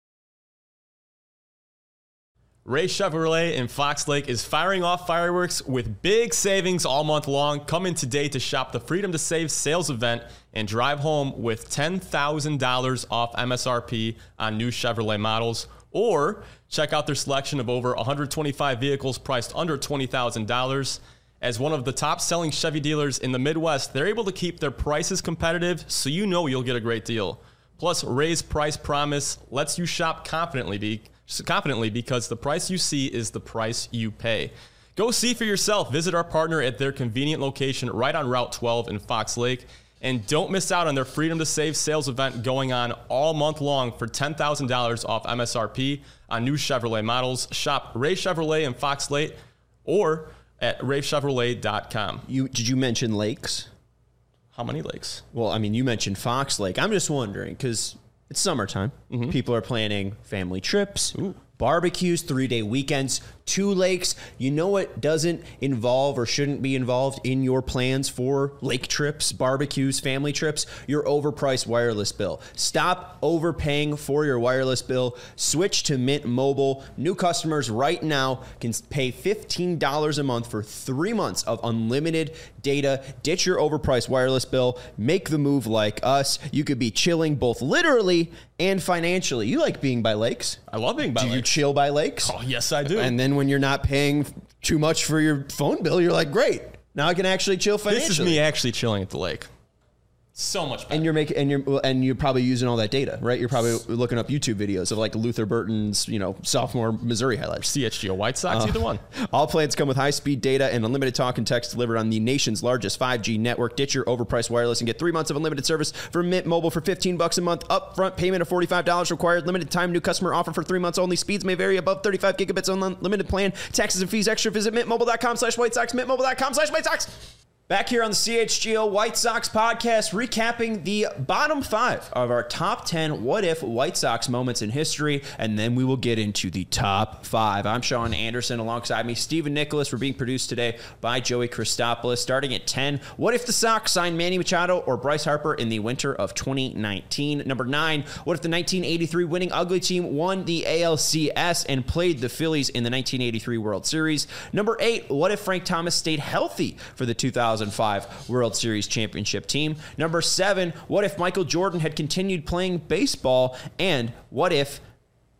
Ray Chevrolet in Fox Lake is firing off fireworks with big savings all month long. Come in today to shop the Freedom to Save sales event and drive home with $10,000 off MSRP on new Chevrolet models. Or check out their selection of over 125 vehicles priced under $20,000. As one of the top-selling Chevy dealers in the Midwest, they're able to keep their prices competitive, so you'll get a great deal. Plus, Ray's price promise lets you shop confidently because the price you see is the price you pay. Go see for yourself. Visit our partner at their convenient location right on Route 12 in Fox Lake. And don't miss out on their Freedom to Save sales event going on all month long for $10,000 off MSRP on new Chevrolet models. Shop Ray Chevrolet in Fox Lake or at raychevrolet.com. Did you mention lakes? How many lakes? Well, I mean, you mentioned Fox Lake. I'm just wondering, because it's summertime. Mm-hmm. People are planning family trips, barbecues, 3-day weekends, 2 lakes. You know what doesn't involve or shouldn't be involved in your plans for lake trips, barbecues, family trips? Your overpriced wireless bill. Stop overpaying for your wireless bill. Switch to Mint Mobile. New customers right now can pay $15 a month for 3 months of unlimited data. Ditch your overpriced wireless bill. Make the move like us. You could be chilling both literally and financially. You like being by lakes? I love being by lakes. Do you chill by lakes? Oh, yes, I do. And then when you're not paying too much for your phone bill, you're like, great, now I can actually chill financially. This is me actually chilling at the lake. So much better. And you're probably using all that data, right? You're probably looking up YouTube videos of like Luther Burton's, sophomore Missouri highlights. CHGO White Sox, either one. All plans come with high-speed data and unlimited talk and text delivered on the nation's largest 5G network. Ditch your overpriced wireless and get 3 months of unlimited service for Mint Mobile for $15 a month. Upfront payment of $45 required. Limited time new customer offer for 3 months only. Speeds may vary above 35 gigabits on unlimited plan. Taxes and fees extra. Visit mintmobile.com/White Sox. Mintmobile.com/White Sox. Back here on the CHGO White Sox podcast, recapping the bottom 5 of our top 10 what-if White Sox moments in history, and then we will get into the top 5. I'm Sean Anderson. Alongside me, Stephen Nicholas. We're being produced today by Joey Christopoulos. Starting at 10, what if the Sox signed Manny Machado or Bryce Harper in the winter of 2019? Number 9, what if the 1983 winning Ugly Team won the ALCS and played the Phillies in the 1983 World Series? Number 8, what if Frank Thomas stayed healthy for the 2005 World Series championship team? Number 7, what if Michael Jordan had continued playing baseball? And what if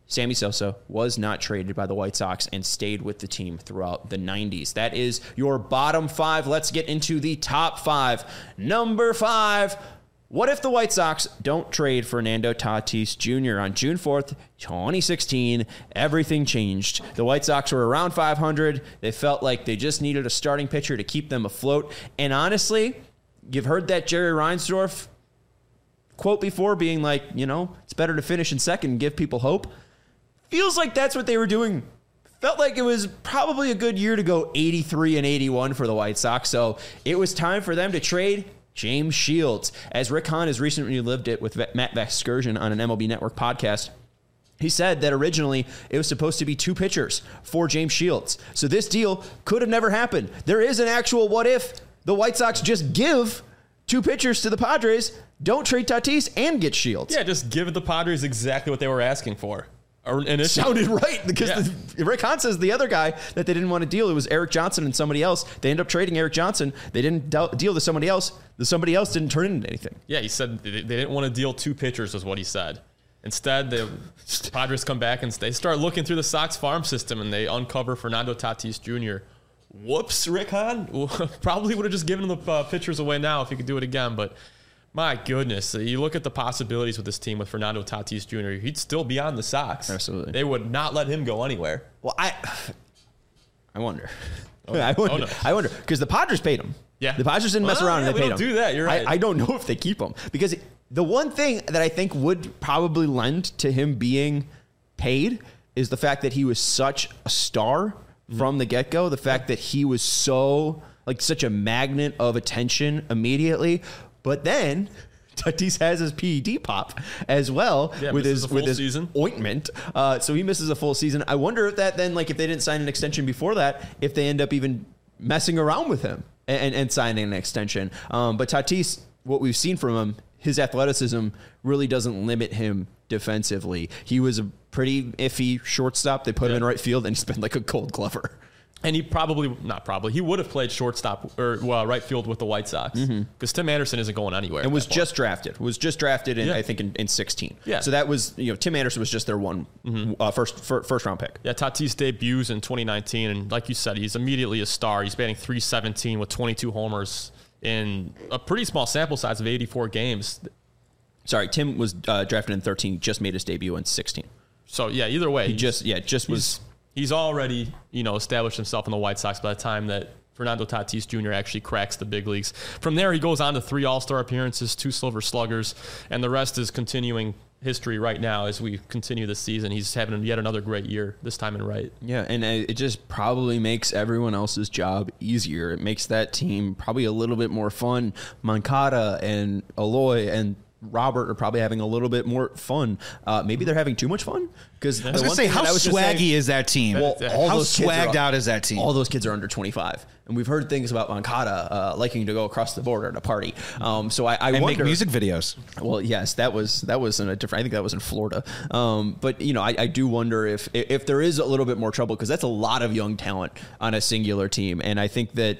Sammy Sosa was not traded by the White Sox and stayed with the team throughout the 90s. That is your bottom 5. Let's get into the top 5. Number 5. What if the White Sox don't trade Fernando Tatis Jr.? On June 4th, 2016, everything changed. The White Sox were around 500. They felt like they just needed a starting pitcher to keep them afloat. And honestly, you've heard that Jerry Reinsdorf quote before, being like, it's better to finish in second and give people hope. Feels like that's what they were doing. Felt like it was probably a good year to go 83 and 81 for the White Sox. So it was time for them to trade James Shields. As Rick Hahn has recently lived it with Matt Vasgersian on an MLB Network podcast, he said that originally it was supposed to be 2 pitchers for James Shields. So this deal could have never happened. There is an actual what if the White Sox just give 2 pitchers to the Padres, don't trade Tatis, and get Shields. Yeah, just give the Padres exactly what they were asking for. Sounded right, because Rick Hahn says the other guy that they didn't want to deal, it was Eric Johnson and somebody else. They ended up trading Eric Johnson. They didn't deal to somebody else. The somebody else didn't turn into anything. Yeah, he said they didn't want to deal 2 pitchers, is what he said. Instead, the Padres come back and they start looking through the Sox farm system, and they uncover Fernando Tatis Jr. Whoops, Rick Hahn. Probably would have just given the pitchers away now if he could do it again, but my goodness, you look at the possibilities with this team with Fernando Tatis Jr., he'd still be on the Sox. Absolutely. They would not let him go anywhere. Well, I wonder. I wonder, because the Padres paid him. Yeah. The Padres didn't mess around and they paid him. Do that. You're right. I don't know if they keep him, because the one thing that I think would probably lend to him being paid is the fact that he was such a star from the get-go. The fact that he was such a magnet of attention immediately. But then Tatis has his PED pop as well with his season. Ointment. So he misses a full season. I wonder if that then, if they didn't sign an extension before that, if they end up even messing around with him and signing an extension. But Tatis, what we've seen from him, his athleticism really doesn't limit him defensively. He was a pretty iffy shortstop. They put him in right field, and he's been like a Gold Glover. And he he would have played shortstop or right field with the White Sox, because Tim Anderson isn't going anywhere. And was just drafted in, I think, in 16. Yeah. So that was, Tim Anderson was just their first round pick. Yeah, Tatis debuts in 2019, and like you said, he's immediately a star. He's batting .317 with 22 homers in a pretty small sample size of 84 games. Sorry, Tim was drafted in 13, just made his debut in 16. So yeah, either way, He's already, established himself in the White Sox by the time that Fernando Tatis Jr. actually cracks the big leagues. From there, he goes on to 3 All-Star appearances, 2 Silver Sluggers, and the rest is continuing history right now as we continue the season. He's having yet another great year, this time in right. Yeah, and it just probably makes everyone else's job easier. It makes that team probably a little bit more fun. Moncada and Eloy and Robert are probably having a little bit more fun. Maybe they're having too much fun. Because I was going to say, how swaggy is that team? Well, how swagged out is that team? All those kids are under 25. And we've heard things about Moncada liking to go across the border to party. So I and wonder, make music videos. Well, yes, that was in a different. I think that was in Florida. But I do wonder if there is a little bit more trouble, because that's a lot of young talent on a singular team. And I think that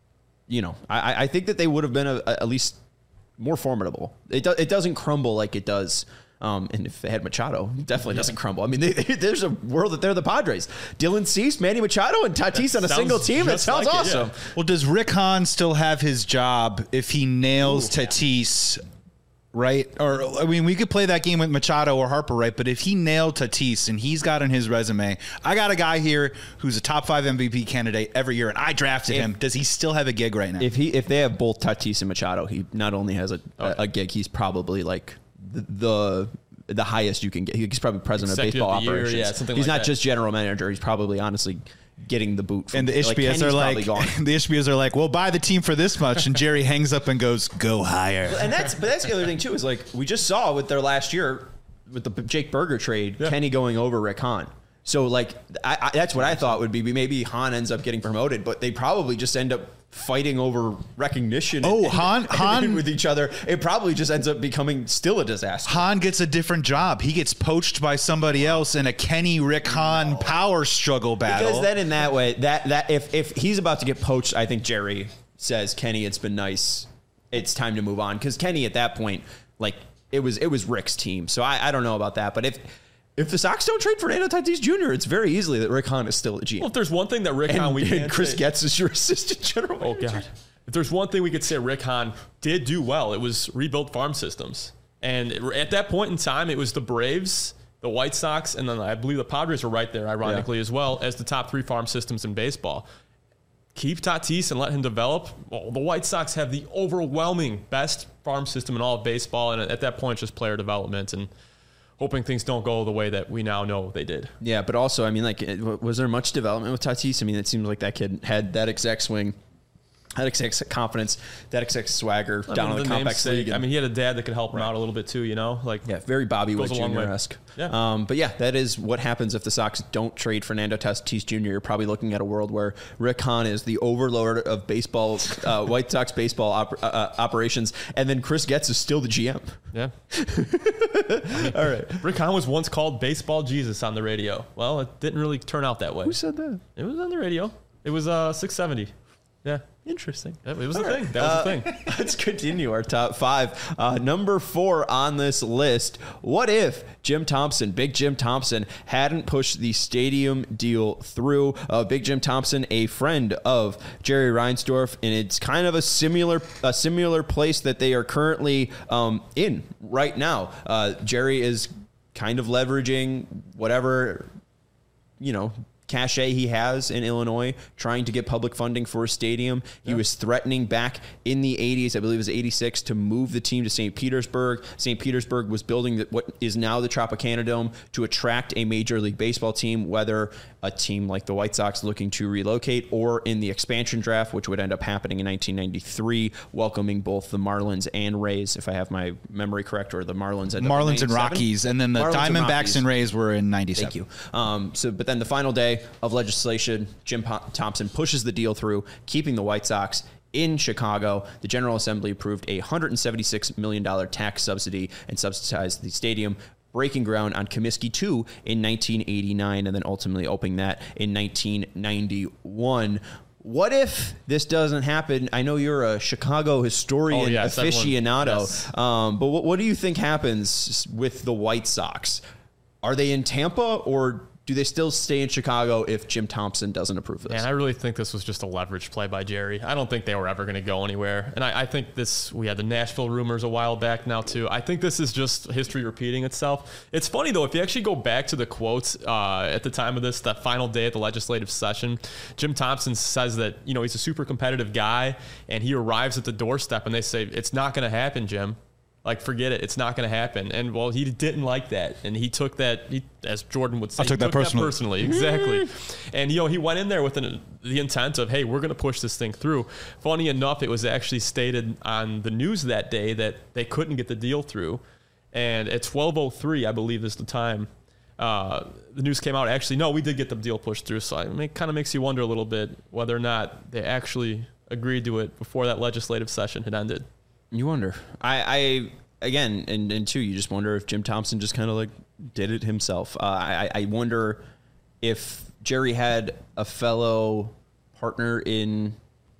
I think that they would have been at least more formidable. It doesn't crumble like it does. And if they had Machado, it definitely doesn't crumble. I mean, there's a world that they're the Padres. Dylan Cease, Manny Machado, and Tatis on a single team. That sounds awesome. Well, does Rick Hahn still have his job if he nails Tatis? Right? Or, I mean, we could play that game with Machado or Harper, right? But if he nailed Tatis and he's got on his resume, I got a guy here who's a top 5 MVP candidate every year, and I drafted him. Does he still have a gig right now? If they have both Tatis and Machado, he not only has a gig, he's probably like the highest you can get. He's probably president of baseball operations. He's not just general manager. He's probably honestly getting the boot. And the Ishbias are like, we'll buy the team for this much. And Jerry hangs up and goes, go higher. And that's the other thing too, is like we just saw with their last year with the Jake Berger trade, Kenny going over Rick Hahn. So like that's what I thought would be maybe Hahn ends up getting promoted, but they probably just end up fighting over recognition. Hahn with each other. It probably just ends up becoming still a disaster. Hahn gets a different job. He gets poached by somebody else in a Kenny Rick Hahn power struggle battle. Because then in that way, that if he's about to get poached, I think Jerry says, Kenny, it's been nice. It's time to move on. Because Kenny at that point, like it was Rick's team. So I don't know about that. But if the Sox don't trade Fernando Tatis Jr., it's very easily that Rick Hahn is still a GM. Well, if there's one thing that Rick Hahn and Chris Getz is your assistant general manager. Oh, God. If there's one thing we could say Rick Hahn did do well, it was rebuild farm systems. And at that point in time, it was the Braves, the White Sox, and then I believe the Padres were right there, ironically, as well as the top 3 farm systems in baseball. Keep Tatis and let him develop. Well, the White Sox have the overwhelming best farm system in all of baseball, and at that point, it's just player development and hoping things don't go the way that we now know they did. Yeah, but also, I mean, like, was there much development with Tatis? I mean, it seems like that kid had that exact swing, that exact confidence, that exact swagger down in the complex league. I mean, he had a dad that could help him out a little bit too, you know? Like, yeah, very Bobby Witt Jr.-esque. Yeah. But yeah, that is what happens if the Sox don't trade Fernando Tatis Jr. You're probably looking at a world where Rick Hahn is the overlord of baseball, White Sox baseball operations, and then Chris Getz is still the GM. Yeah. All right. Rick Hahn was once called Baseball Jesus on the radio. Well, it didn't really turn out that way. Who said that? It was on the radio. It was 670. Yeah. Interesting. It was a thing. That was a thing. Let's continue our top 5. Number 4 on this list. What if Big Jim Thompson, hadn't pushed the stadium deal through? Big Jim Thompson, a friend of Jerry Reinsdorf, and it's kind of a similar place that they are currently in right now. Jerry is kind of leveraging whatever, cachet he has in Illinois, trying to get public funding for a stadium. He was threatening back in the 80s, I believe it was 86, to move the team to St. Petersburg. St. Petersburg was building what is now the Tropicana Dome to attract a Major League Baseball team, whether a team like the White Sox looking to relocate or in the expansion draft, which would end up happening in 1993, welcoming both the Marlins and Rays, if I have my memory correct, or the Marlins and Rockies, and then the Diamondbacks and Rays were in 97. Thank you. But then the final day of legislation, Jim Thompson pushes the deal through, keeping the White Sox in Chicago. The General Assembly approved a $176 million tax subsidy and subsidized the stadium, breaking ground on Comiskey 2 in 1989, and then ultimately opening that in 1991. What if this doesn't happen? I know you're a Chicago historian aficionado, yes. But what do you think happens with the White Sox? Are they in Tampa, or do they still stay in Chicago if Jim Thompson doesn't approve this? And I really think this was just a leverage play by Jerry. I don't think they were ever going to go anywhere. And I think we had the Nashville rumors a while back now too. I think this is just history repeating itself. It's funny though, if you actually go back to the quotes at the time of this, that final day at the legislative session, Jim Thompson says that, he's a super competitive guy, and he arrives at the doorstep and they say, "It's not going to happen, Jim. Like, forget it. It's not going to happen." And, well, he didn't like that. And he took that, as Jordan would say, I took that personally. Exactly. And, he went in there with the intent of, hey, we're going to push this thing through. Funny enough, it was actually stated on the news that day that they couldn't get the deal through. And at 12:03, I believe is the time, the news came out. Actually, no, we did get the deal pushed through. So it kind of makes you wonder a little bit whether or not they actually agreed to it before that legislative session had ended. You wonder. I again, and two, you just wonder if Jim Thompson just kind of like did it himself. I wonder if Jerry had a fellow partner in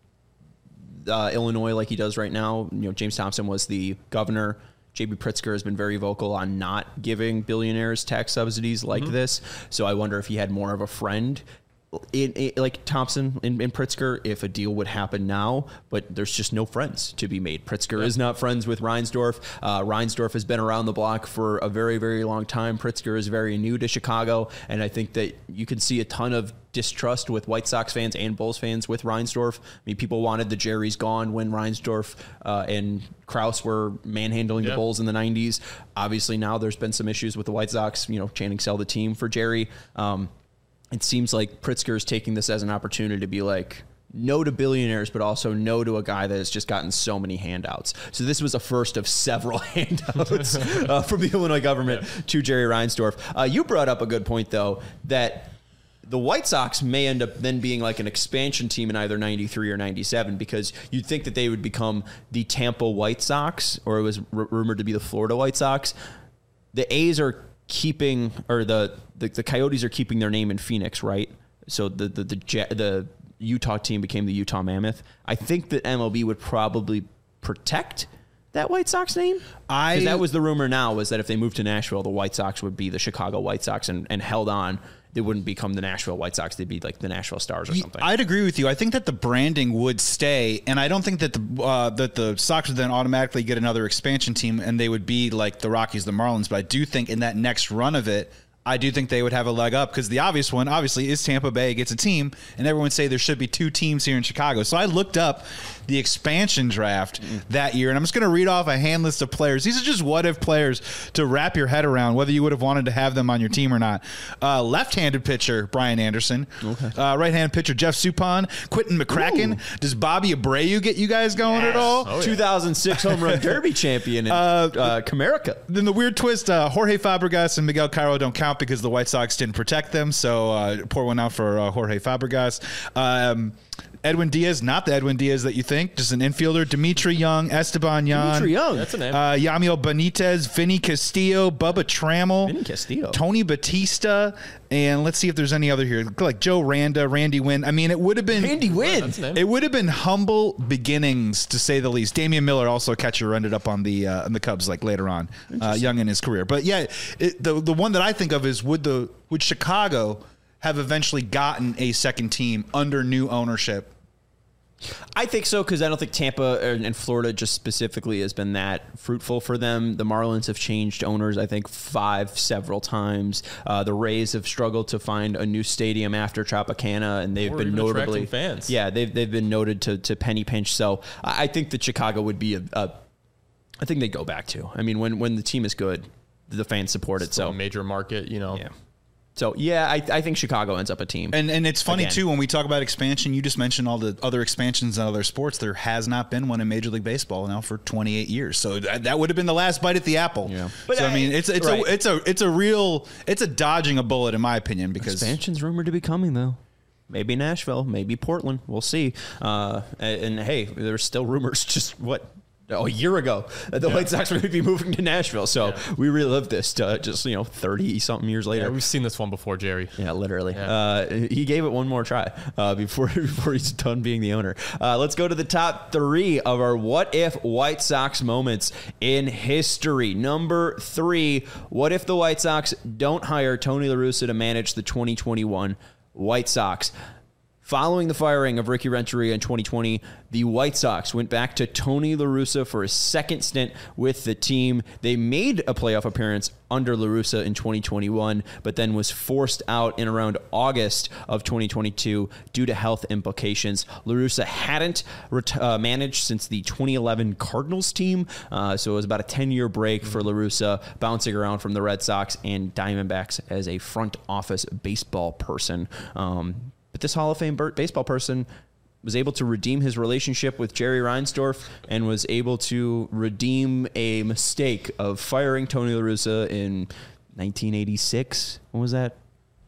Illinois like he does right now. James Thompson was the governor. J.B. Pritzker has been very vocal on not giving billionaires tax subsidies like this. So I wonder if he had more of a friend like Thompson and Pritzker, if a deal would happen now, but there's just no friends to be made. Pritzker is not friends with Reinsdorf. Reinsdorf has been around the block for a very, very long time. Pritzker is very new to Chicago, and I think that you can see a ton of distrust with White Sox fans and Bulls fans with Reinsdorf. I mean, people wanted the Jerry's gone when Reinsdorf and Krause were manhandling the Bulls in the 90s. Obviously, now there's been some issues with the White Sox, chanting sell the team for Jerry. It seems like Pritzker is taking this as an opportunity to be like, no to billionaires, but also no to a guy that has just gotten so many handouts. So this was a first of several handouts from the Illinois government to Jerry Reinsdorf. You brought up a good point, though, that the White Sox may end up then being like an expansion team in either 93 or 97, because you'd think that they would become the Tampa White Sox, or it was rumored to be the Florida White Sox. The A's are keeping, or the Coyotes are keeping their name in Phoenix, right? So the Utah team became the Utah Mammoth. I think that MLB would probably protect that White Sox name? I- Because that was the rumor now, was that if they moved to Nashville, the White Sox would be the Chicago White Sox and held on. They wouldn't become the Nashville White Sox. They'd be like the Nashville Stars or something. I'd agree with you. I think that the branding would stay, and I don't think that the Sox would then automatically get another expansion team and they would be like the Rockies, the Marlins. But I do think in that next run of it, I do think they would have a leg up because the obvious one, obviously, is Tampa Bay gets a team, and everyone say there should be 2 teams here in Chicago. So I looked up the expansion draft that year, and I'm just going to read off a hand list of players. These are just what-if players to wrap your head around, whether you would have wanted to have them on your team or not. Left-handed pitcher, Brian Anderson. Okay. Right-handed pitcher, Jeff Suppan. Quentin McCracken. Ooh. Does Bobby Abreu get you guys going at all? Oh, yeah. 2006 home run derby champion in Comerica. Then the weird twist, Jorge Fabregas and Miguel Cairo don't count because the White Sox didn't protect them, so pour one out for Jorge Fabregas. Edwin Diaz, not the Edwin Diaz that you think, just an infielder. Dimitri Young, Esteban Yan. Dimitri Young. That's a name. Yamiel Benitez, Vinny Castillo, Bubba Trammell. Vinny Castillo. Tony Batista, and let's see if there's any other here. Like Joe Randa, Randy Wynn. I mean, it would have been... Randy Wynn. That's a name. It would have been humble beginnings, to say the least. Damian Miller, also a catcher, ended up on the Cubs like later on, young in his career. But yeah, the one that I think of is would Chicago have eventually gotten a second team under new ownership? I think so, because I don't think Tampa and Florida just specifically has been that fruitful for them. The Marlins have changed owners, I think, several times. The Rays have struggled to find a new stadium after Tropicana, and they've been notably fans. Yeah, they've been noted to penny pinch. So I think that Chicago would be I think they go back to. I mean, when the team is good, the fans support it. Still So a major market, you know. Yeah. So, yeah, I think Chicago ends up a team. And it's funny, Again. too, when we talk about expansion, you just mentioned all the other expansions in other sports. There has not been one in Major League Baseball now for 28 years. So that would have been the last bite at the apple. Yeah. But so, I mean, it's a dodging a bullet, in my opinion, because Expansion's rumored to be coming, though. Maybe Nashville, maybe Portland. We'll see. And hey, there's still rumors a year ago that the White Sox would be moving to Nashville. So we relived this to just, 30-something years later. Yeah, we've seen this one before, Jerry. Yeah, literally. Yeah. He gave it one more try before he's done being the owner. Let's go to the top 3 of our What If White Sox moments in history. Number 3, what if the White Sox don't hire Tony La Russa to manage the 2021 White Sox? Following the firing of Ricky Renteria in 2020, the White Sox went back to Tony La Russa for a second stint with the team. They made a playoff appearance under La Russa in 2021, but then was forced out in around August of 2022 due to health implications. La Russa hadn't managed since the 2011 Cardinals team, so it was about a 10-year break for La Russa, bouncing around from the Red Sox and Diamondbacks as a front office baseball person. But this Hall of Fame baseball person was able to redeem his relationship with Jerry Reinsdorf and was able to redeem a mistake of firing Tony La Russa in 1986. When was that?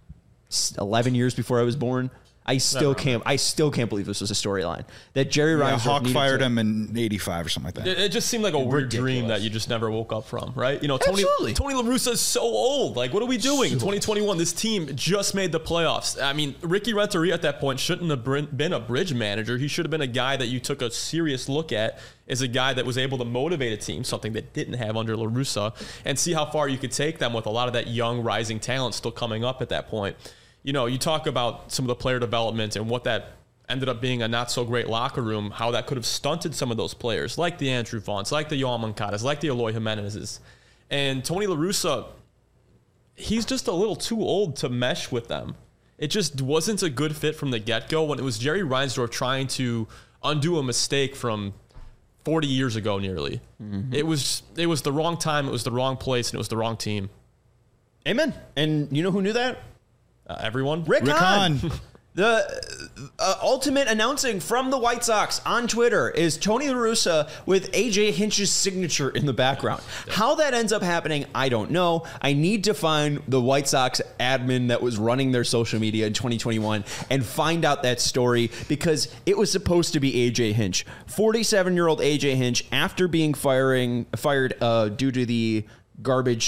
11 years before I was born. I still can't believe this was a storyline that Jerry Reinsdorf Hawk fired him in 85 or something like that. It just seemed like a weird dream that you just never woke up from, right? Tony La Russa is so old. Like, what are we doing? 2021, this team just made the playoffs. I mean, Ricky Renteria at that point shouldn't have been a bridge manager. He should have been a guy that you took a serious look at as a guy that was able to motivate a team, something that didn't have under La Russa, and see how far you could take them with a lot of that young rising talent still coming up at that point. You talk about some of the player development and what that ended up being a not so great locker room, how that could have stunted some of those players, like the Andrew Vaughn's, like the Yoan Moncadas, like the Eloy Jimenez's. And Tony La Russa, he's just a little too old to mesh with them. It just wasn't a good fit from the get-go when it was Jerry Reinsdorf trying to undo a mistake from 40 years ago nearly. Mm-hmm. It was the wrong time, it was the wrong place, and it was the wrong team. Amen. And you know who knew that? Everyone? Rick Hahn. The ultimate announcing from the White Sox on Twitter is Tony La Russa with A.J. Hinch's signature in the background. How that ends up happening, I don't know. I need to find the White Sox admin that was running their social media in 2021 and find out that story, because it was supposed to be A.J. Hinch. 47-year-old A.J. Hinch, after being fired due to the garbage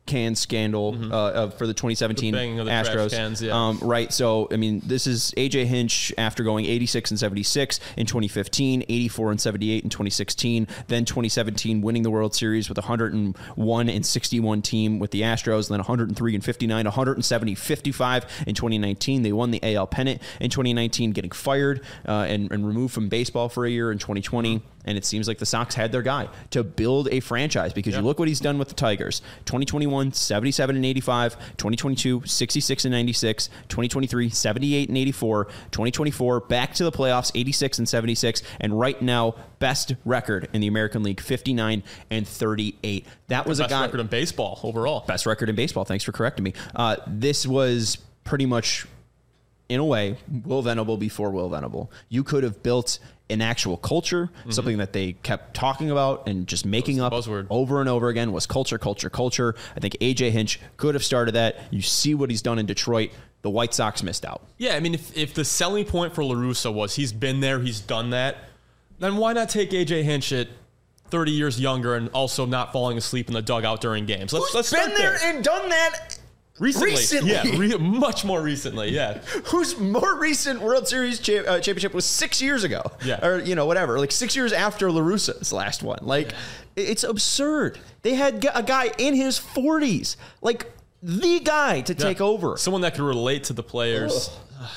can scandal for the 2017 The banging of the trash Astros. cans, yeah. Right. So, I mean, this is AJ Hinch after going 86 and 76 in 2015, 84 and 78 in 2016, then 2017 winning the World Series with 101 and 61 team with the Astros, then 103 and 59, 170, 55 in 2019. They won the AL pennant in 2019, getting fired and removed from baseball for a year in 2020. And it seems like the Sox had their guy to build a franchise because you look what he's done with the Tigers. 2021, 77 and 85. 2022, 66 and 96. 2023, 78 and 84. 2024, back to the playoffs, 86 and 76. And right now, best record in the American League, 59 and 38. That was a guy. Best record in baseball overall. Best record in baseball. Thanks for correcting me. This was pretty much, in a way, Will Venable before Will Venable. You could have built an actual culture, something that they kept talking about and just making up buzzword. over and over again was culture, culture, culture. I think AJ Hinch could have started that. You see what he's done in Detroit. The White Sox missed out. Yeah, I mean, if the selling point for La Russa was he's been there, he's done that, then why not take AJ Hinch at 30 years younger and also not falling asleep in the dugout during games? Let's Who's start been there and done that recently? Yeah, much more recently, yeah. Whose more recent World Series championship was 6 years ago. Yeah. Or, whatever. Like 6 years after La Russa's last one. Like, it's absurd. They had a guy in his 40s. Like, the guy to take over. Someone that could relate to the players.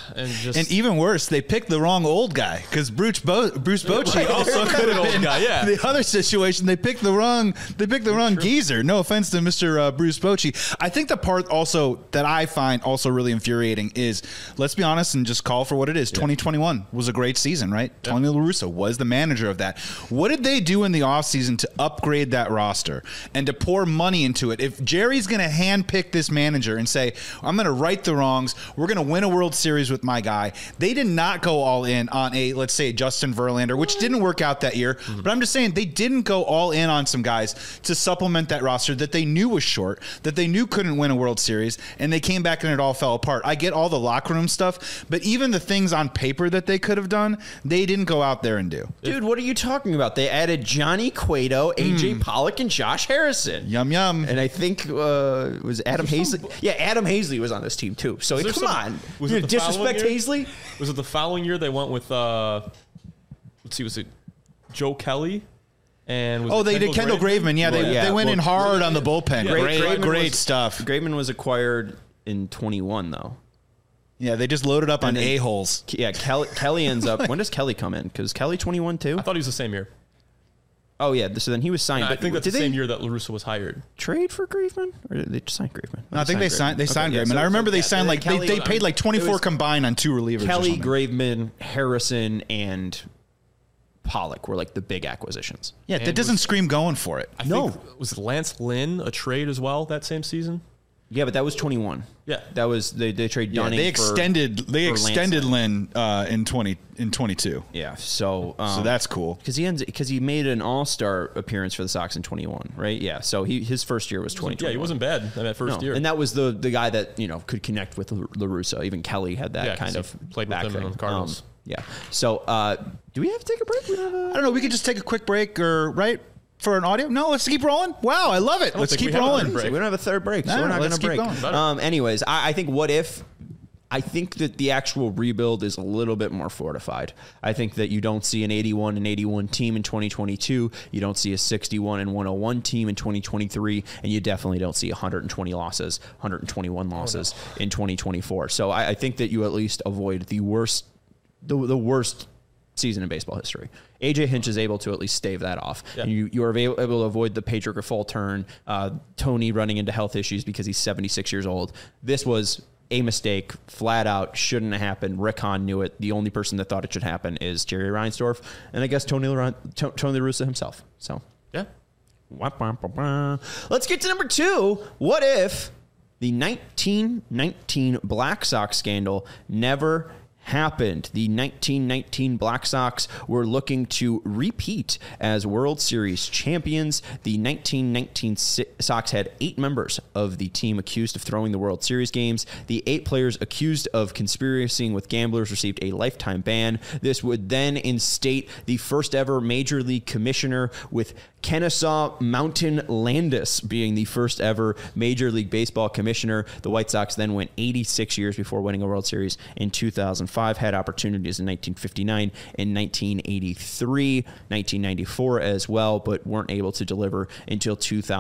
And even worse, they picked the wrong old guy because Bruce Bochy also could have been the other situation. They picked the wrong geezer. No offense to Mr. Bruce Bochy. I think the part also that I find also really infuriating is, let's be honest and just call for what it is. 2021 was a great season, right? Yeah. Tony La Russa was the manager of that. What did they do in the offseason to upgrade that roster and to pour money into it? If Jerry's going to handpick this manager and say, I'm going to right the wrongs, we're going to win a World Series with my guy. They did not go all in on let's say Justin Verlander, which didn't work out that year. Mm-hmm. But I'm just saying they didn't go all in on some guys to supplement that roster that they knew was short, that they knew couldn't win a World Series, and they came back and it all fell apart. I get all the locker room stuff, but even the things on paper that they could have done, they didn't go out there and do. Dude, what are you talking about? They added Johnny Cueto, AJ Pollock, and Josh Harrison. Yum, yum. And I think was Adam Hazley. Yeah, Adam Hazley was on this team too. So come on. Was it disrespect Hazley? Was it the following year they went with let's see, was it Joe Kelly? And they did Kendall Graveman. Yeah, they went in hard on the bullpen. Yeah, great stuff. Graveman was acquired in 21 though. Yeah, they just loaded up on a-holes. Yeah, Kelly ends up. When does Kelly come in? Because Kelly 21 too. I thought he was the same year. Oh, yeah. So then he was signed. No, I think that's the same year that La Russa was hired. Trade for Graveman? Or did they just sign Graveman? No, I think they signed Graveman. I remember they signed they paid like 24 combined on two relievers. Kelly, Graveman, Harrison, and Pollock were like the big acquisitions. Yeah, that doesn't scream going for it. I think, was Lance Lynn a trade as well that same season? Yeah, but that was 21. Yeah, that was they trade Dunning. They extended Lynn in 22. Yeah, so that's cool because he made an All-Star appearance for the Sox in 21, right? Yeah, so his first year was 20. Yeah, he wasn't bad in that first year, and that was the guy that could connect with La Russa. Even Kelly had that kind of played with him in the Cardinals. Yeah. So do we have to take a break? I don't know. We could just take a quick break, for an audio? No, let's keep rolling. Wow, I love it. Let's keep rolling. We don't have a third break, so we're not going to break. Anyways, I think what if... I think that the actual rebuild is a little bit more fortified. I think that you don't see an 81 and 81 team in 2022. You don't see a 61 and 101 team in 2023, and you definitely don't see 120 losses, 121 losses in 2024. So I think that you at least avoid the worst season in baseball history. AJ Hinch is able to at least stave that off. Yeah. And you are able to avoid the Pedro Grifol turn, Tony running into health issues because he's 76 years old. This was a mistake, flat out, shouldn't have happened. Rick Hahn knew it. The only person that thought it should happen is Jerry Reinsdorf, and I guess Tony La Russa himself. So yeah. Let's get to number 2. What if the 1919 Black Sox scandal never happened. The 1919 Black Sox were looking to repeat as World Series champions. The 1919 Sox had 8 members of the team accused of throwing the World Series games. The 8 players accused of conspiring with gamblers received a lifetime ban. This would then instate the first ever Major League commissioner, with Kennesaw Mountain Landis being the first ever Major League Baseball commissioner. The White Sox then went 86 years before winning a World Series in 2005, had opportunities in 1959 and 1983, 1994 as well, but weren't able to deliver until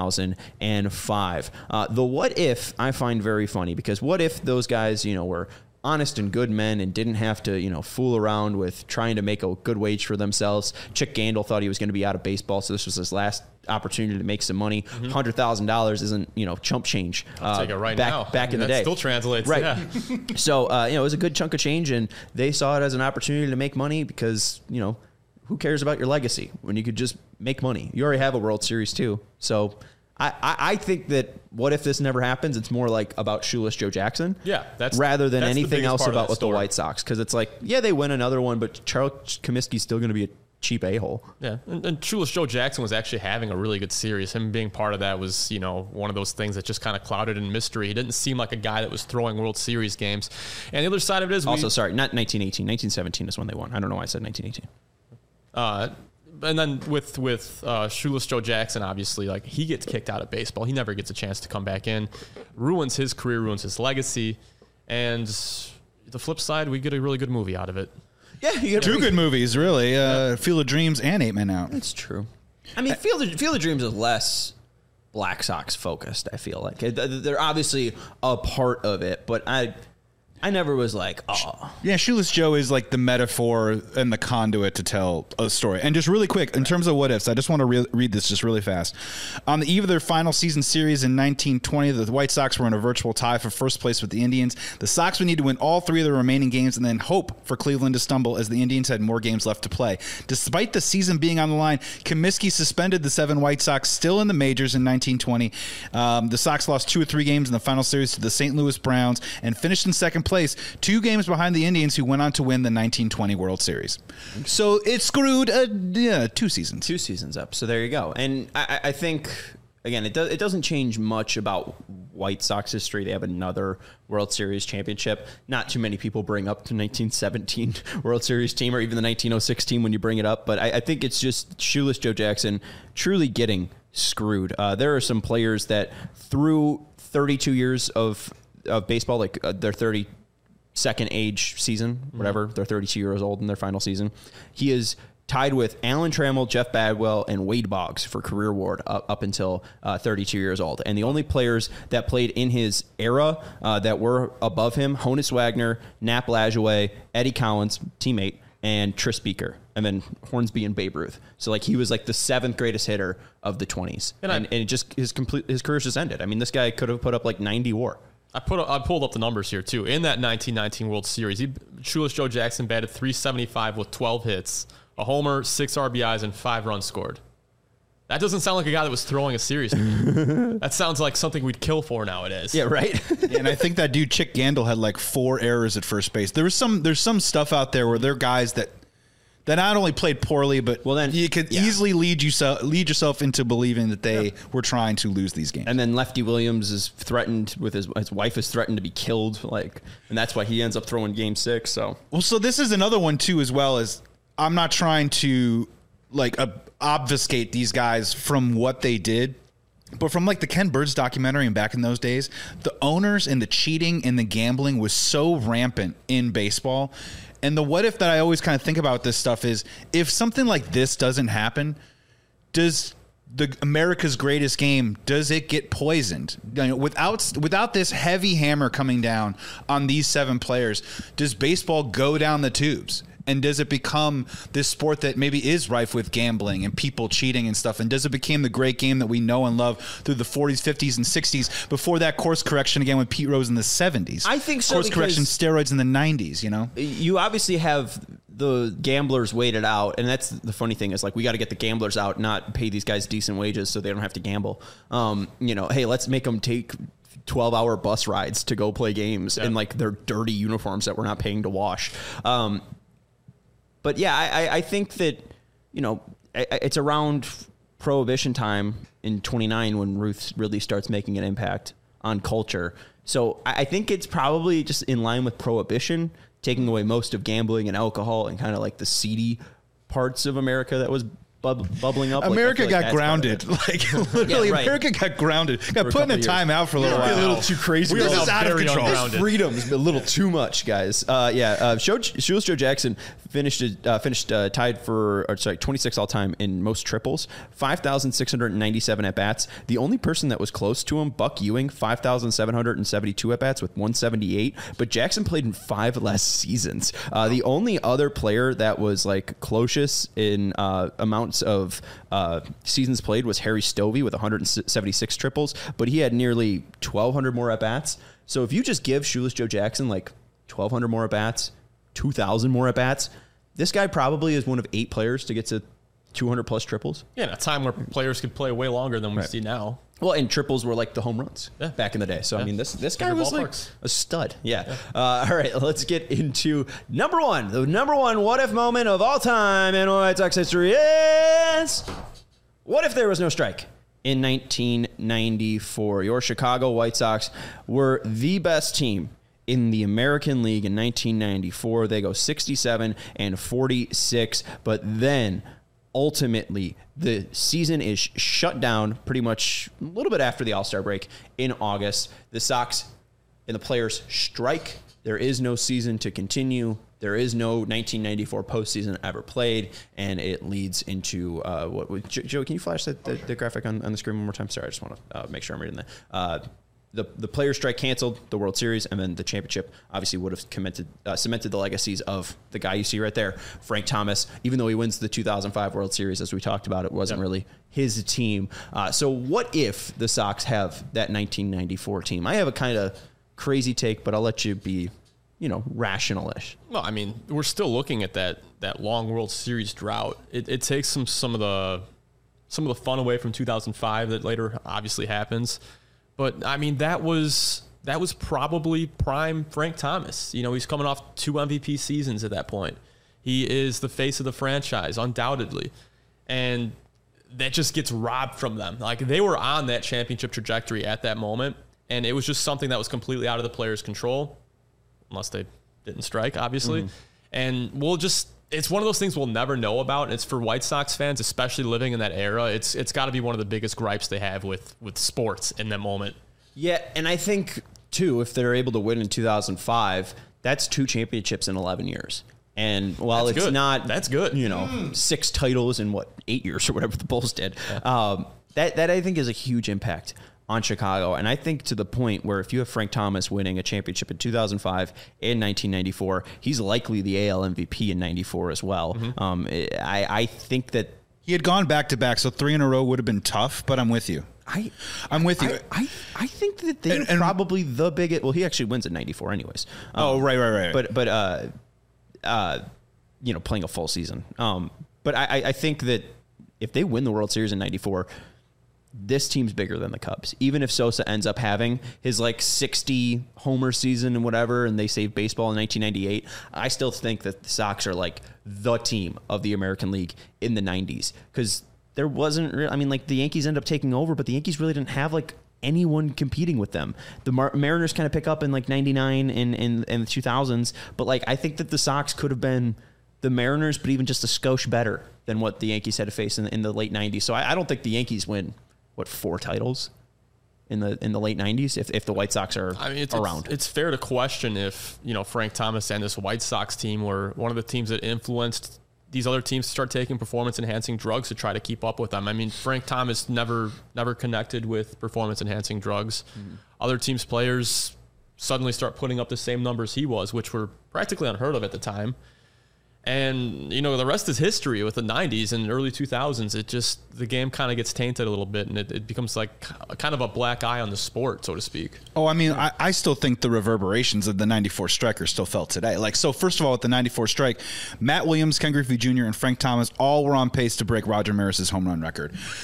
2005. The what if I find very funny, because what if those guys, were honest and good men and didn't have to, fool around with trying to make a good wage for themselves. Chick Gandil thought he was going to be out of baseball, so this was his last opportunity to make some money. $100,000 isn't, chump change. I'll take it right back, now. Back in the day. Still translates. Right. Yeah. So, it was a good chunk of change, and they saw it as an opportunity to make money because, who cares about your legacy when you could just make money? You already have a World Series too. So I think that what if this never happens? It's more like about Shoeless Joe Jackson. Yeah. Rather than that's anything else about with the story. White Sox. Because it's like, yeah, they win another one, but Charles Comiskey's still going to be a cheap a-hole. Yeah. And Shoeless Joe Jackson was actually having a really good series. Him being part of that was, one of those things that just kind of clouded in mystery. He didn't seem like a guy that was throwing World Series games. And the other side of it is... Also, sorry, not 1918. 1917 is when they won. I don't know why I said 1918. And then with Shoeless Joe Jackson, obviously, like, he gets kicked out of baseball. He never gets a chance to come back in. Ruins his career, ruins his legacy. And the flip side, we get a really good movie out of it. Yeah, you get 2 good movies, really. Field of Dreams and 8 Men Out. That's true. I mean, Field of Dreams is less Black Sox focused, I feel like. They're obviously a part of it, but I never was like, oh. Yeah, Shoeless Joe is like the metaphor and the conduit to tell a story. And just really quick, in terms of what ifs, I just want to read this just really fast. On the eve of their final season series in 1920, the White Sox were in a virtual tie for first place with the Indians. The Sox would need to win all 3 of the remaining games and then hope for Cleveland to stumble, as the Indians had more games left to play. Despite the season being on the line, Comiskey suspended the 7 White Sox still in the majors in 1920. The Sox lost 2 or 3 games in the final series to the St. Louis Browns and finished in second place, 2 games behind the Indians, who went on to win the 1920 World Series. So it screwed 2 seasons. 2 seasons up. So there you go. And I think, again, it doesn't change much about White Sox history. They have another World Series championship. Not too many people bring up the 1917 World Series team or even the 1906 team when you bring it up. But I think it's just Shoeless Joe Jackson truly getting screwed. There are some players that through 32 years of baseball, like their 32nd age season, whatever, they're 32 years old in their final season. He is tied with Alan Trammell, Jeff Bagwell, and Wade Boggs for career award up until 32 years old. And the only players that played in his era that were above him, Honus Wagner, Nap Lajoie, Eddie Collins, teammate, and Tris Speaker, and then Hornsby and Babe Ruth. So like he was like the 7th greatest hitter of the 20s. And it just his career just ended. I mean, this guy could have put up like 90 WAR. I pulled up the numbers here too. In that 1919 World Series, Shoeless Joe Jackson batted .375 with 12 hits, a homer, 6 RBIs, and 5 runs scored. That doesn't sound like a guy that was throwing a series. That sounds like something we'd kill for nowadays. Yeah, right. And I think that dude Chick Gandil had like 4 errors at first base. There's some stuff out there where there are guys that not only played poorly, but you could easily lead yourself into believing that they were trying to lose these games. And then Lefty Williams is threatened with his wife is threatened to be killed, and that's why he ends up throwing Game 6. So this is another one too, as well as I'm not trying to obfuscate these guys from what they did. But from like the Ken Burns documentary and back in those days, the owners and the cheating and the gambling was so rampant in baseball. And the what if that I always kind of think about this stuff is, if something like this doesn't happen, does the America's Greatest Game, does it get poisoned? Without this heavy hammer coming down on these 7 players, does baseball go down the tubes? And does it become this sport that maybe is rife with gambling and people cheating and stuff? And does it become the great game that we know and love through the 40s, 50s, and 60s before that course correction again with Pete Rose in the 70s? I think so. Course correction, steroids in the 90s, You obviously have the gamblers waited out. And that's the funny thing is, like, we got to get the gamblers out, not pay these guys decent wages so they don't have to gamble. Hey, let's make them take 12-hour bus rides to go play games in like their dirty uniforms that we're not paying to wash. But yeah, I think that, you know, it's around Prohibition time in 29 when Ruth really starts making an impact on culture. So I think it's probably just in line with Prohibition, taking away most of gambling and alcohol and kind of like the seedy parts of America that was bubbling up. America like, got grounded. Like literally, America got grounded. Got put in a timeout for a little while. A little too crazy. This is out of control. This freedom's a little too much, guys. Shoeless Joe Jackson finished tied for 26 all time in most triples, 5,697 at bats. The only person that was close to him, Buck Ewing, 5,772 at bats with 178. But Jackson played in 5 less seasons. The only other player that was like closest in amounts of seasons played was Harry Stovey with 176 triples, but he had nearly 1,200 more at bats. So if you just give Shoeless Joe Jackson like 1,200 more at bats, 2,000 more at bats, this guy probably is one of 8 players to get to 200 plus triples. Yeah, in a time where players could play way longer than we see now. Well, and triples were like the home runs back in the day. So, I mean, this guy was like a stud. Yeah. All right, let's get into number one. The number one what-if moment of all time in White Sox history is, what if there was no strike? In 1994, your Chicago White Sox were the best team in the American League in 1994. They go 67-46, but then ultimately, the season is shut down pretty much a little bit after the All-Star break in August. The Sox and the players strike. There is no season to continue. There is no 1994 postseason ever played, and it leads into Joe, can you flash the graphic on the screen one more time? Sorry, I just want to make sure I'm reading that. The players' strike canceled the World Series, and then the championship obviously would have cemented the legacies of the guy you see right there, Frank Thomas. Even though he wins the 2005 World Series, as we talked about, it wasn't really his team. So what if the Sox have that 1994 team? I have a kind of crazy take, but I'll let you be, rational-ish. Well, I mean, we're still looking at that long World Series drought. It takes some of the fun away from 2005 that later obviously happens. But I mean, that was probably prime Frank Thomas. He's coming off 2 MVP seasons at that point. He is the face of the franchise, undoubtedly. And that just gets robbed from them. Like, they were on that championship trajectory at that moment, and it was just something that was completely out of the players' control, unless they didn't strike, obviously. Mm-hmm. And it's one of those things we'll never know about. And it's for White Sox fans, especially living in that era. It's got to be one of the biggest gripes they have with sports in that moment. Yeah, and I think, too, if they're able to win in 2005, that's 2 championships in 11 years. And while that's good. 6 titles in 8 years or whatever the Bulls did. Yeah. That I think is a huge impact on Chicago. And I think to the point where if you have Frank Thomas winning a championship in 2005 and 1994, he's likely the AL MVP in 94 as well. Mm-hmm. I think that he had gone back-to-back, so 3 in a row would have been tough, but I'm with you. I'm with you. I think that they're probably the biggest. Well, he actually wins at 94 anyways. Right. But playing a full season. But I think that if they win the World Series in 94, this team's bigger than the Cubs. Even if Sosa ends up having his 60 homer season and whatever, and they save baseball in 1998, I still think that the Sox are the team of the American League in the 90s, because there wasn't the Yankees end up taking over, but the Yankees really didn't have anyone competing with them. The Mariners kind of pick up in 99 and the 2000s, but I think that the Sox could have been the Mariners, but even just a skosh better than what the Yankees had to face in the late 90s. So I don't think the Yankees win 4 titles in the late 90s if the White Sox are around. It's fair to question if Frank Thomas and this White Sox team were one of the teams that influenced these other teams to start taking performance-enhancing drugs to try to keep up with them. I mean, Frank Thomas never connected with performance-enhancing drugs. Mm-hmm. Other teams' players suddenly start putting up the same numbers he was, which were practically unheard of at the time. And, the rest is history with the 90s and early 2000s. The game kind of gets tainted a little bit, and it becomes kind of a black eye on the sport, so to speak. Oh, I mean, I still think the reverberations of the 94 strike are still felt today. So first of all, with the 94 strike, Matt Williams, Ken Griffey Jr., and Frank Thomas all were on pace to break Roger Maris's home run record.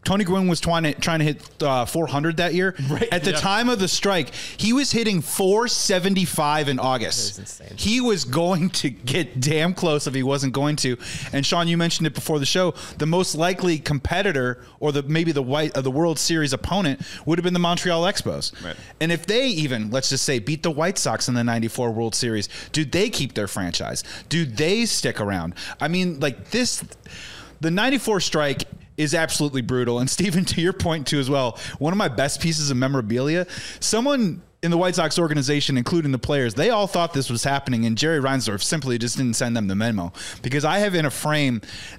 Tony Gwynn was trying to hit 400 that year. Right. At the time of the strike, he was hitting 475 in August. That is insane. He was going to get damn close if he wasn't going to. And Sean, you mentioned it before the show. The most likely competitor, or maybe the World Series opponent, would have been the Montreal Expos. Right. And if they even, let's just say, beat the White Sox in the '94 World Series, do they keep their franchise? Do they stick around? I mean, like this, the '94 strike is absolutely brutal. And Steven, to your point too as well, one of my best pieces of memorabilia, someone in the White Sox organization, including the players, they all thought this was happening, and Jerry Reinsdorf simply just didn't send them the memo. Because I have in a frame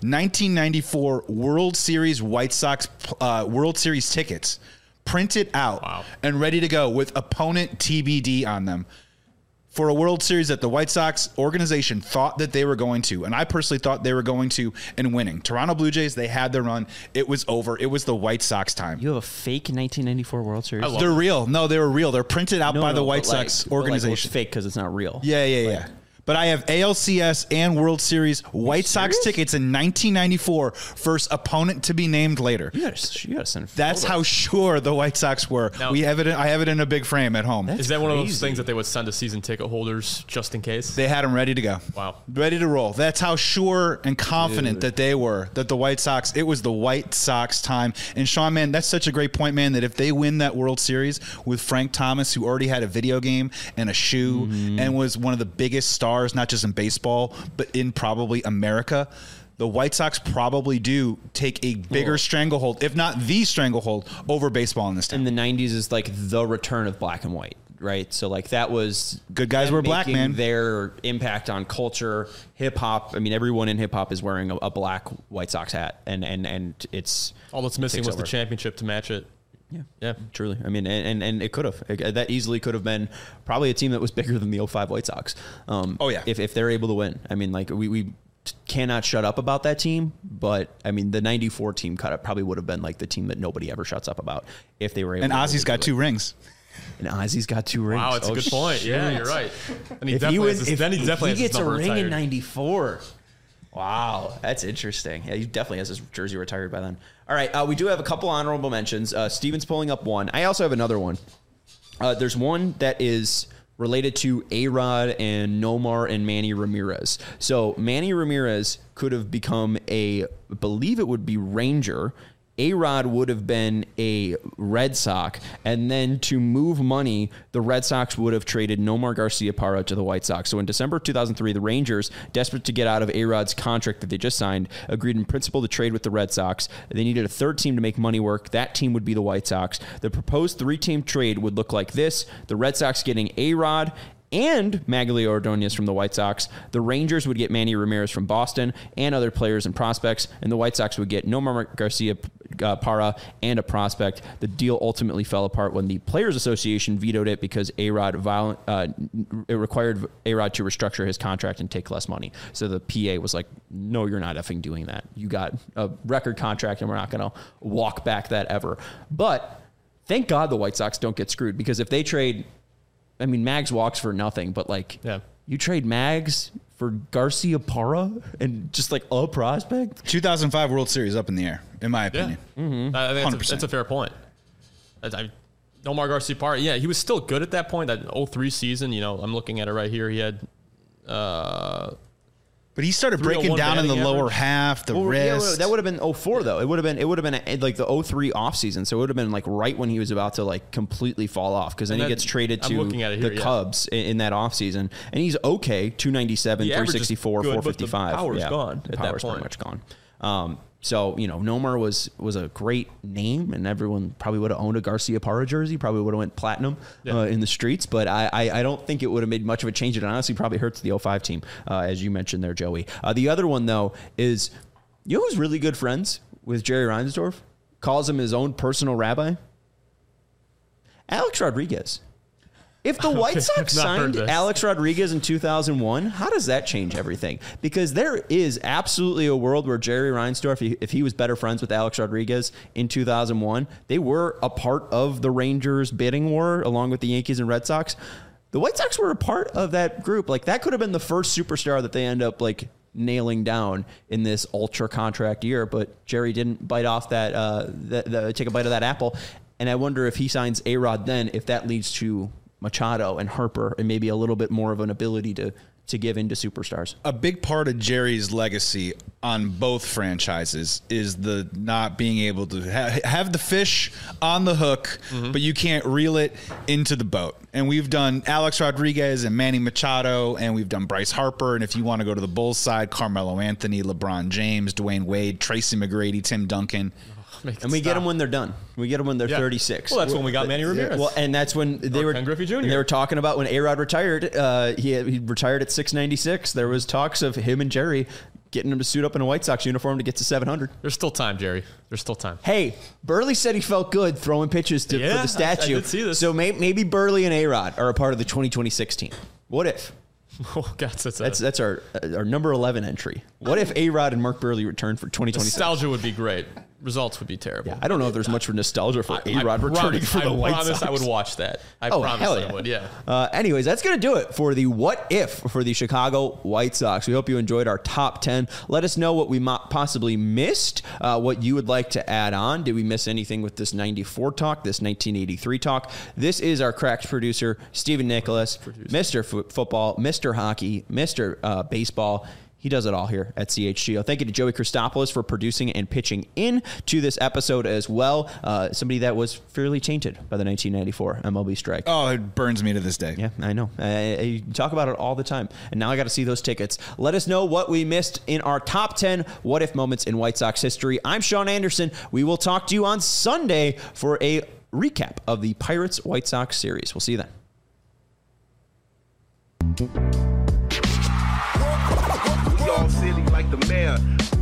1994 World Series White Sox World Series tickets printed out and ready to go with opponent TBD on them, for a World Series that the White Sox organization thought that they were going to, and I personally thought they were going to, and winning. Toronto Blue Jays, they had their run. It was over. It was the White Sox time. You have a fake 1994 World Series? They're real. No, they were real. They're printed out by the White Sox organization. It's fake because it's not real. Yeah. But I have ALCS and World Series White Sox tickets in 1994 versus opponent to be named later. You gotta send. That's how sure the White Sox were. Now, I have it in a big frame at home. Is that one of those things that they would send to season ticket holders just in case? They had them ready to go. Wow. Ready to roll. That's how sure and confident that they were that the White Sox, it was the White Sox time. And Sean, man, that's such a great point, man, that if they win that World Series with Frank Thomas, who already had a video game and a shoe and was one of the biggest stars, not just in baseball, but in probably America, the White Sox probably do take a bigger stranglehold, if not the stranglehold, over baseball in this town. In the 90s is like the return of black and white, right? So like that was good guys were black, man. Their impact on culture, hip hop. I mean, everyone in hip hop is wearing a black White Sox hat, and it's all that's missing was the championship to match it. Yeah, truly. I mean, and it could have. That easily could have been probably a team that was bigger than the 05 White Sox. If they're able to win. I mean, like we cannot shut up about that team, but I mean, the 94 team probably would have been like the team that nobody ever shuts up about if they were able. And Ozzy's got 2 rings. And Ozzy's got 2 rings. Wow, that's a good point. Shit. Yeah, you're right. And he gets a ring in 94. Wow, that's interesting. Yeah, he definitely has his jersey retired by then. All right, we do have a couple honorable mentions. Steven's pulling up one. I also have another one. There's one that is related to A-Rod and Nomar and Manny Ramirez. So Manny Ramirez could have become I believe it would be Ranger. A-Rod would have been a Red Sox, and then to move money, the Red Sox would have traded Nomar Garciaparra to the White Sox. So in December 2003, the Rangers, desperate to get out of A-Rod's contract that they just signed, agreed in principle to trade with the Red Sox. They needed a third team to make money work. That team would be the White Sox. The proposed 3-team trade would look like this: the Red Sox getting A-Rod and Maglio Ordonez from the White Sox. The Rangers would get Manny Ramirez from Boston and other players and prospects, and the White Sox would get Nomar Garciaparra and a prospect. The deal ultimately fell apart when the Players Association vetoed it because it required A-Rod to restructure his contract and take less money. So the PA was like, no, you're not effing doing that. You got a record contract, and we're not going to walk back that ever. But thank God the White Sox don't get screwed, because if they trade... I mean, Mags walks for nothing, but like, you trade Mags for Garciaparra and just like a prospect. 2005 World Series up in the air, in my opinion. I think that's a fair point. Nomar Garciaparra, he was still good at that point. That 03 season, I'm looking at it right here. He had, but he started breaking down in the lower half, the wrist. Yeah, that would have been 04 though. It would have been like the 03 offseason. So it would have been like right when he was about to like completely fall off, because then he gets traded to the Cubs in that offseason, and he's okay. 297, 364, 455. The power's gone at that point. Pretty much gone. So, Nomar was a great name, and everyone probably would have owned a Garciaparra jersey, probably would have went platinum in the streets, but I don't think it would have made much of a change. It honestly probably hurts the 05 team, as you mentioned there, Joey. The other one, though, is, who's really good friends with Jerry Reinsdorf? Calls him his own personal rabbi? Alex Rodriguez. If the White Sox signed Alex Rodriguez in 2001, how does that change everything? Because there is absolutely a world where Jerry Reinsdorf, if he was better friends with Alex Rodriguez in 2001, they were a part of the Rangers bidding war along with the Yankees and Red Sox. The White Sox were a part of that group. Like, that could have been the first superstar that they end up like nailing down in this ultra contract year. But Jerry didn't bite off that, take a bite of that apple. And I wonder if he signs A-Rod then, if that leads to Machado and Harper and maybe a little bit more of an ability to give into superstars. A big part of Jerry's legacy on both franchises is the not being able to have the fish on the hook, but you can't reel it into the boat. And we've done Alex Rodriguez and Manny Machado, and we've done Bryce Harper. And if you want to go to the Bulls side, Carmelo Anthony, LeBron James, Dwayne Wade, Tracy McGrady, Tim Duncan. And we get them when they're done. We get them when they're 36. Well, that's when we got Manny Ramirez. Well, and that's when they were Ken Griffey Jr. They were talking about when A-Rod retired. He retired at 696. There was talks of him and Jerry getting him to suit up in a White Sox uniform to get to 700. There's still time, Jerry. There's still time. Hey, Burley said he felt good throwing pitches for the statue. I did see this. So maybe Burley and A-Rod are a part of the 2016 team. What if? Oh, God, that's our number 11 entry. What if A-Rod and Mark Burley return for 2026? Nostalgia would be great. Results would be terrible. Yeah, I don't know if there's much for nostalgia for A-Rod returning for the White Sox. I would watch that. I promise I would, yeah. Anyways, that's going to do it for the What If for the Chicago White Sox. We hope you enjoyed our top 10. Let us know what we possibly missed, what you would like to add on. Did we miss anything with this 94 talk, this 1983 talk? This is our Cracks producer, Stephen Nicholas, Mr. Football, Mr. Hockey, Mr. Baseball. He does it all here at CHGO. Thank you to Joey Christopoulos for producing and pitching in to this episode as well. Somebody that was fairly tainted by the 1994 MLB strike. Oh, it burns me to this day. Yeah, I know. I talk about it all the time. And now I got to see those tickets. Let us know what we missed in our top 10 What If moments in White Sox history. I'm Sean Anderson. We will talk to you on Sunday for a recap of the Pirates-White Sox series. We'll see you then. All silly like the mayor.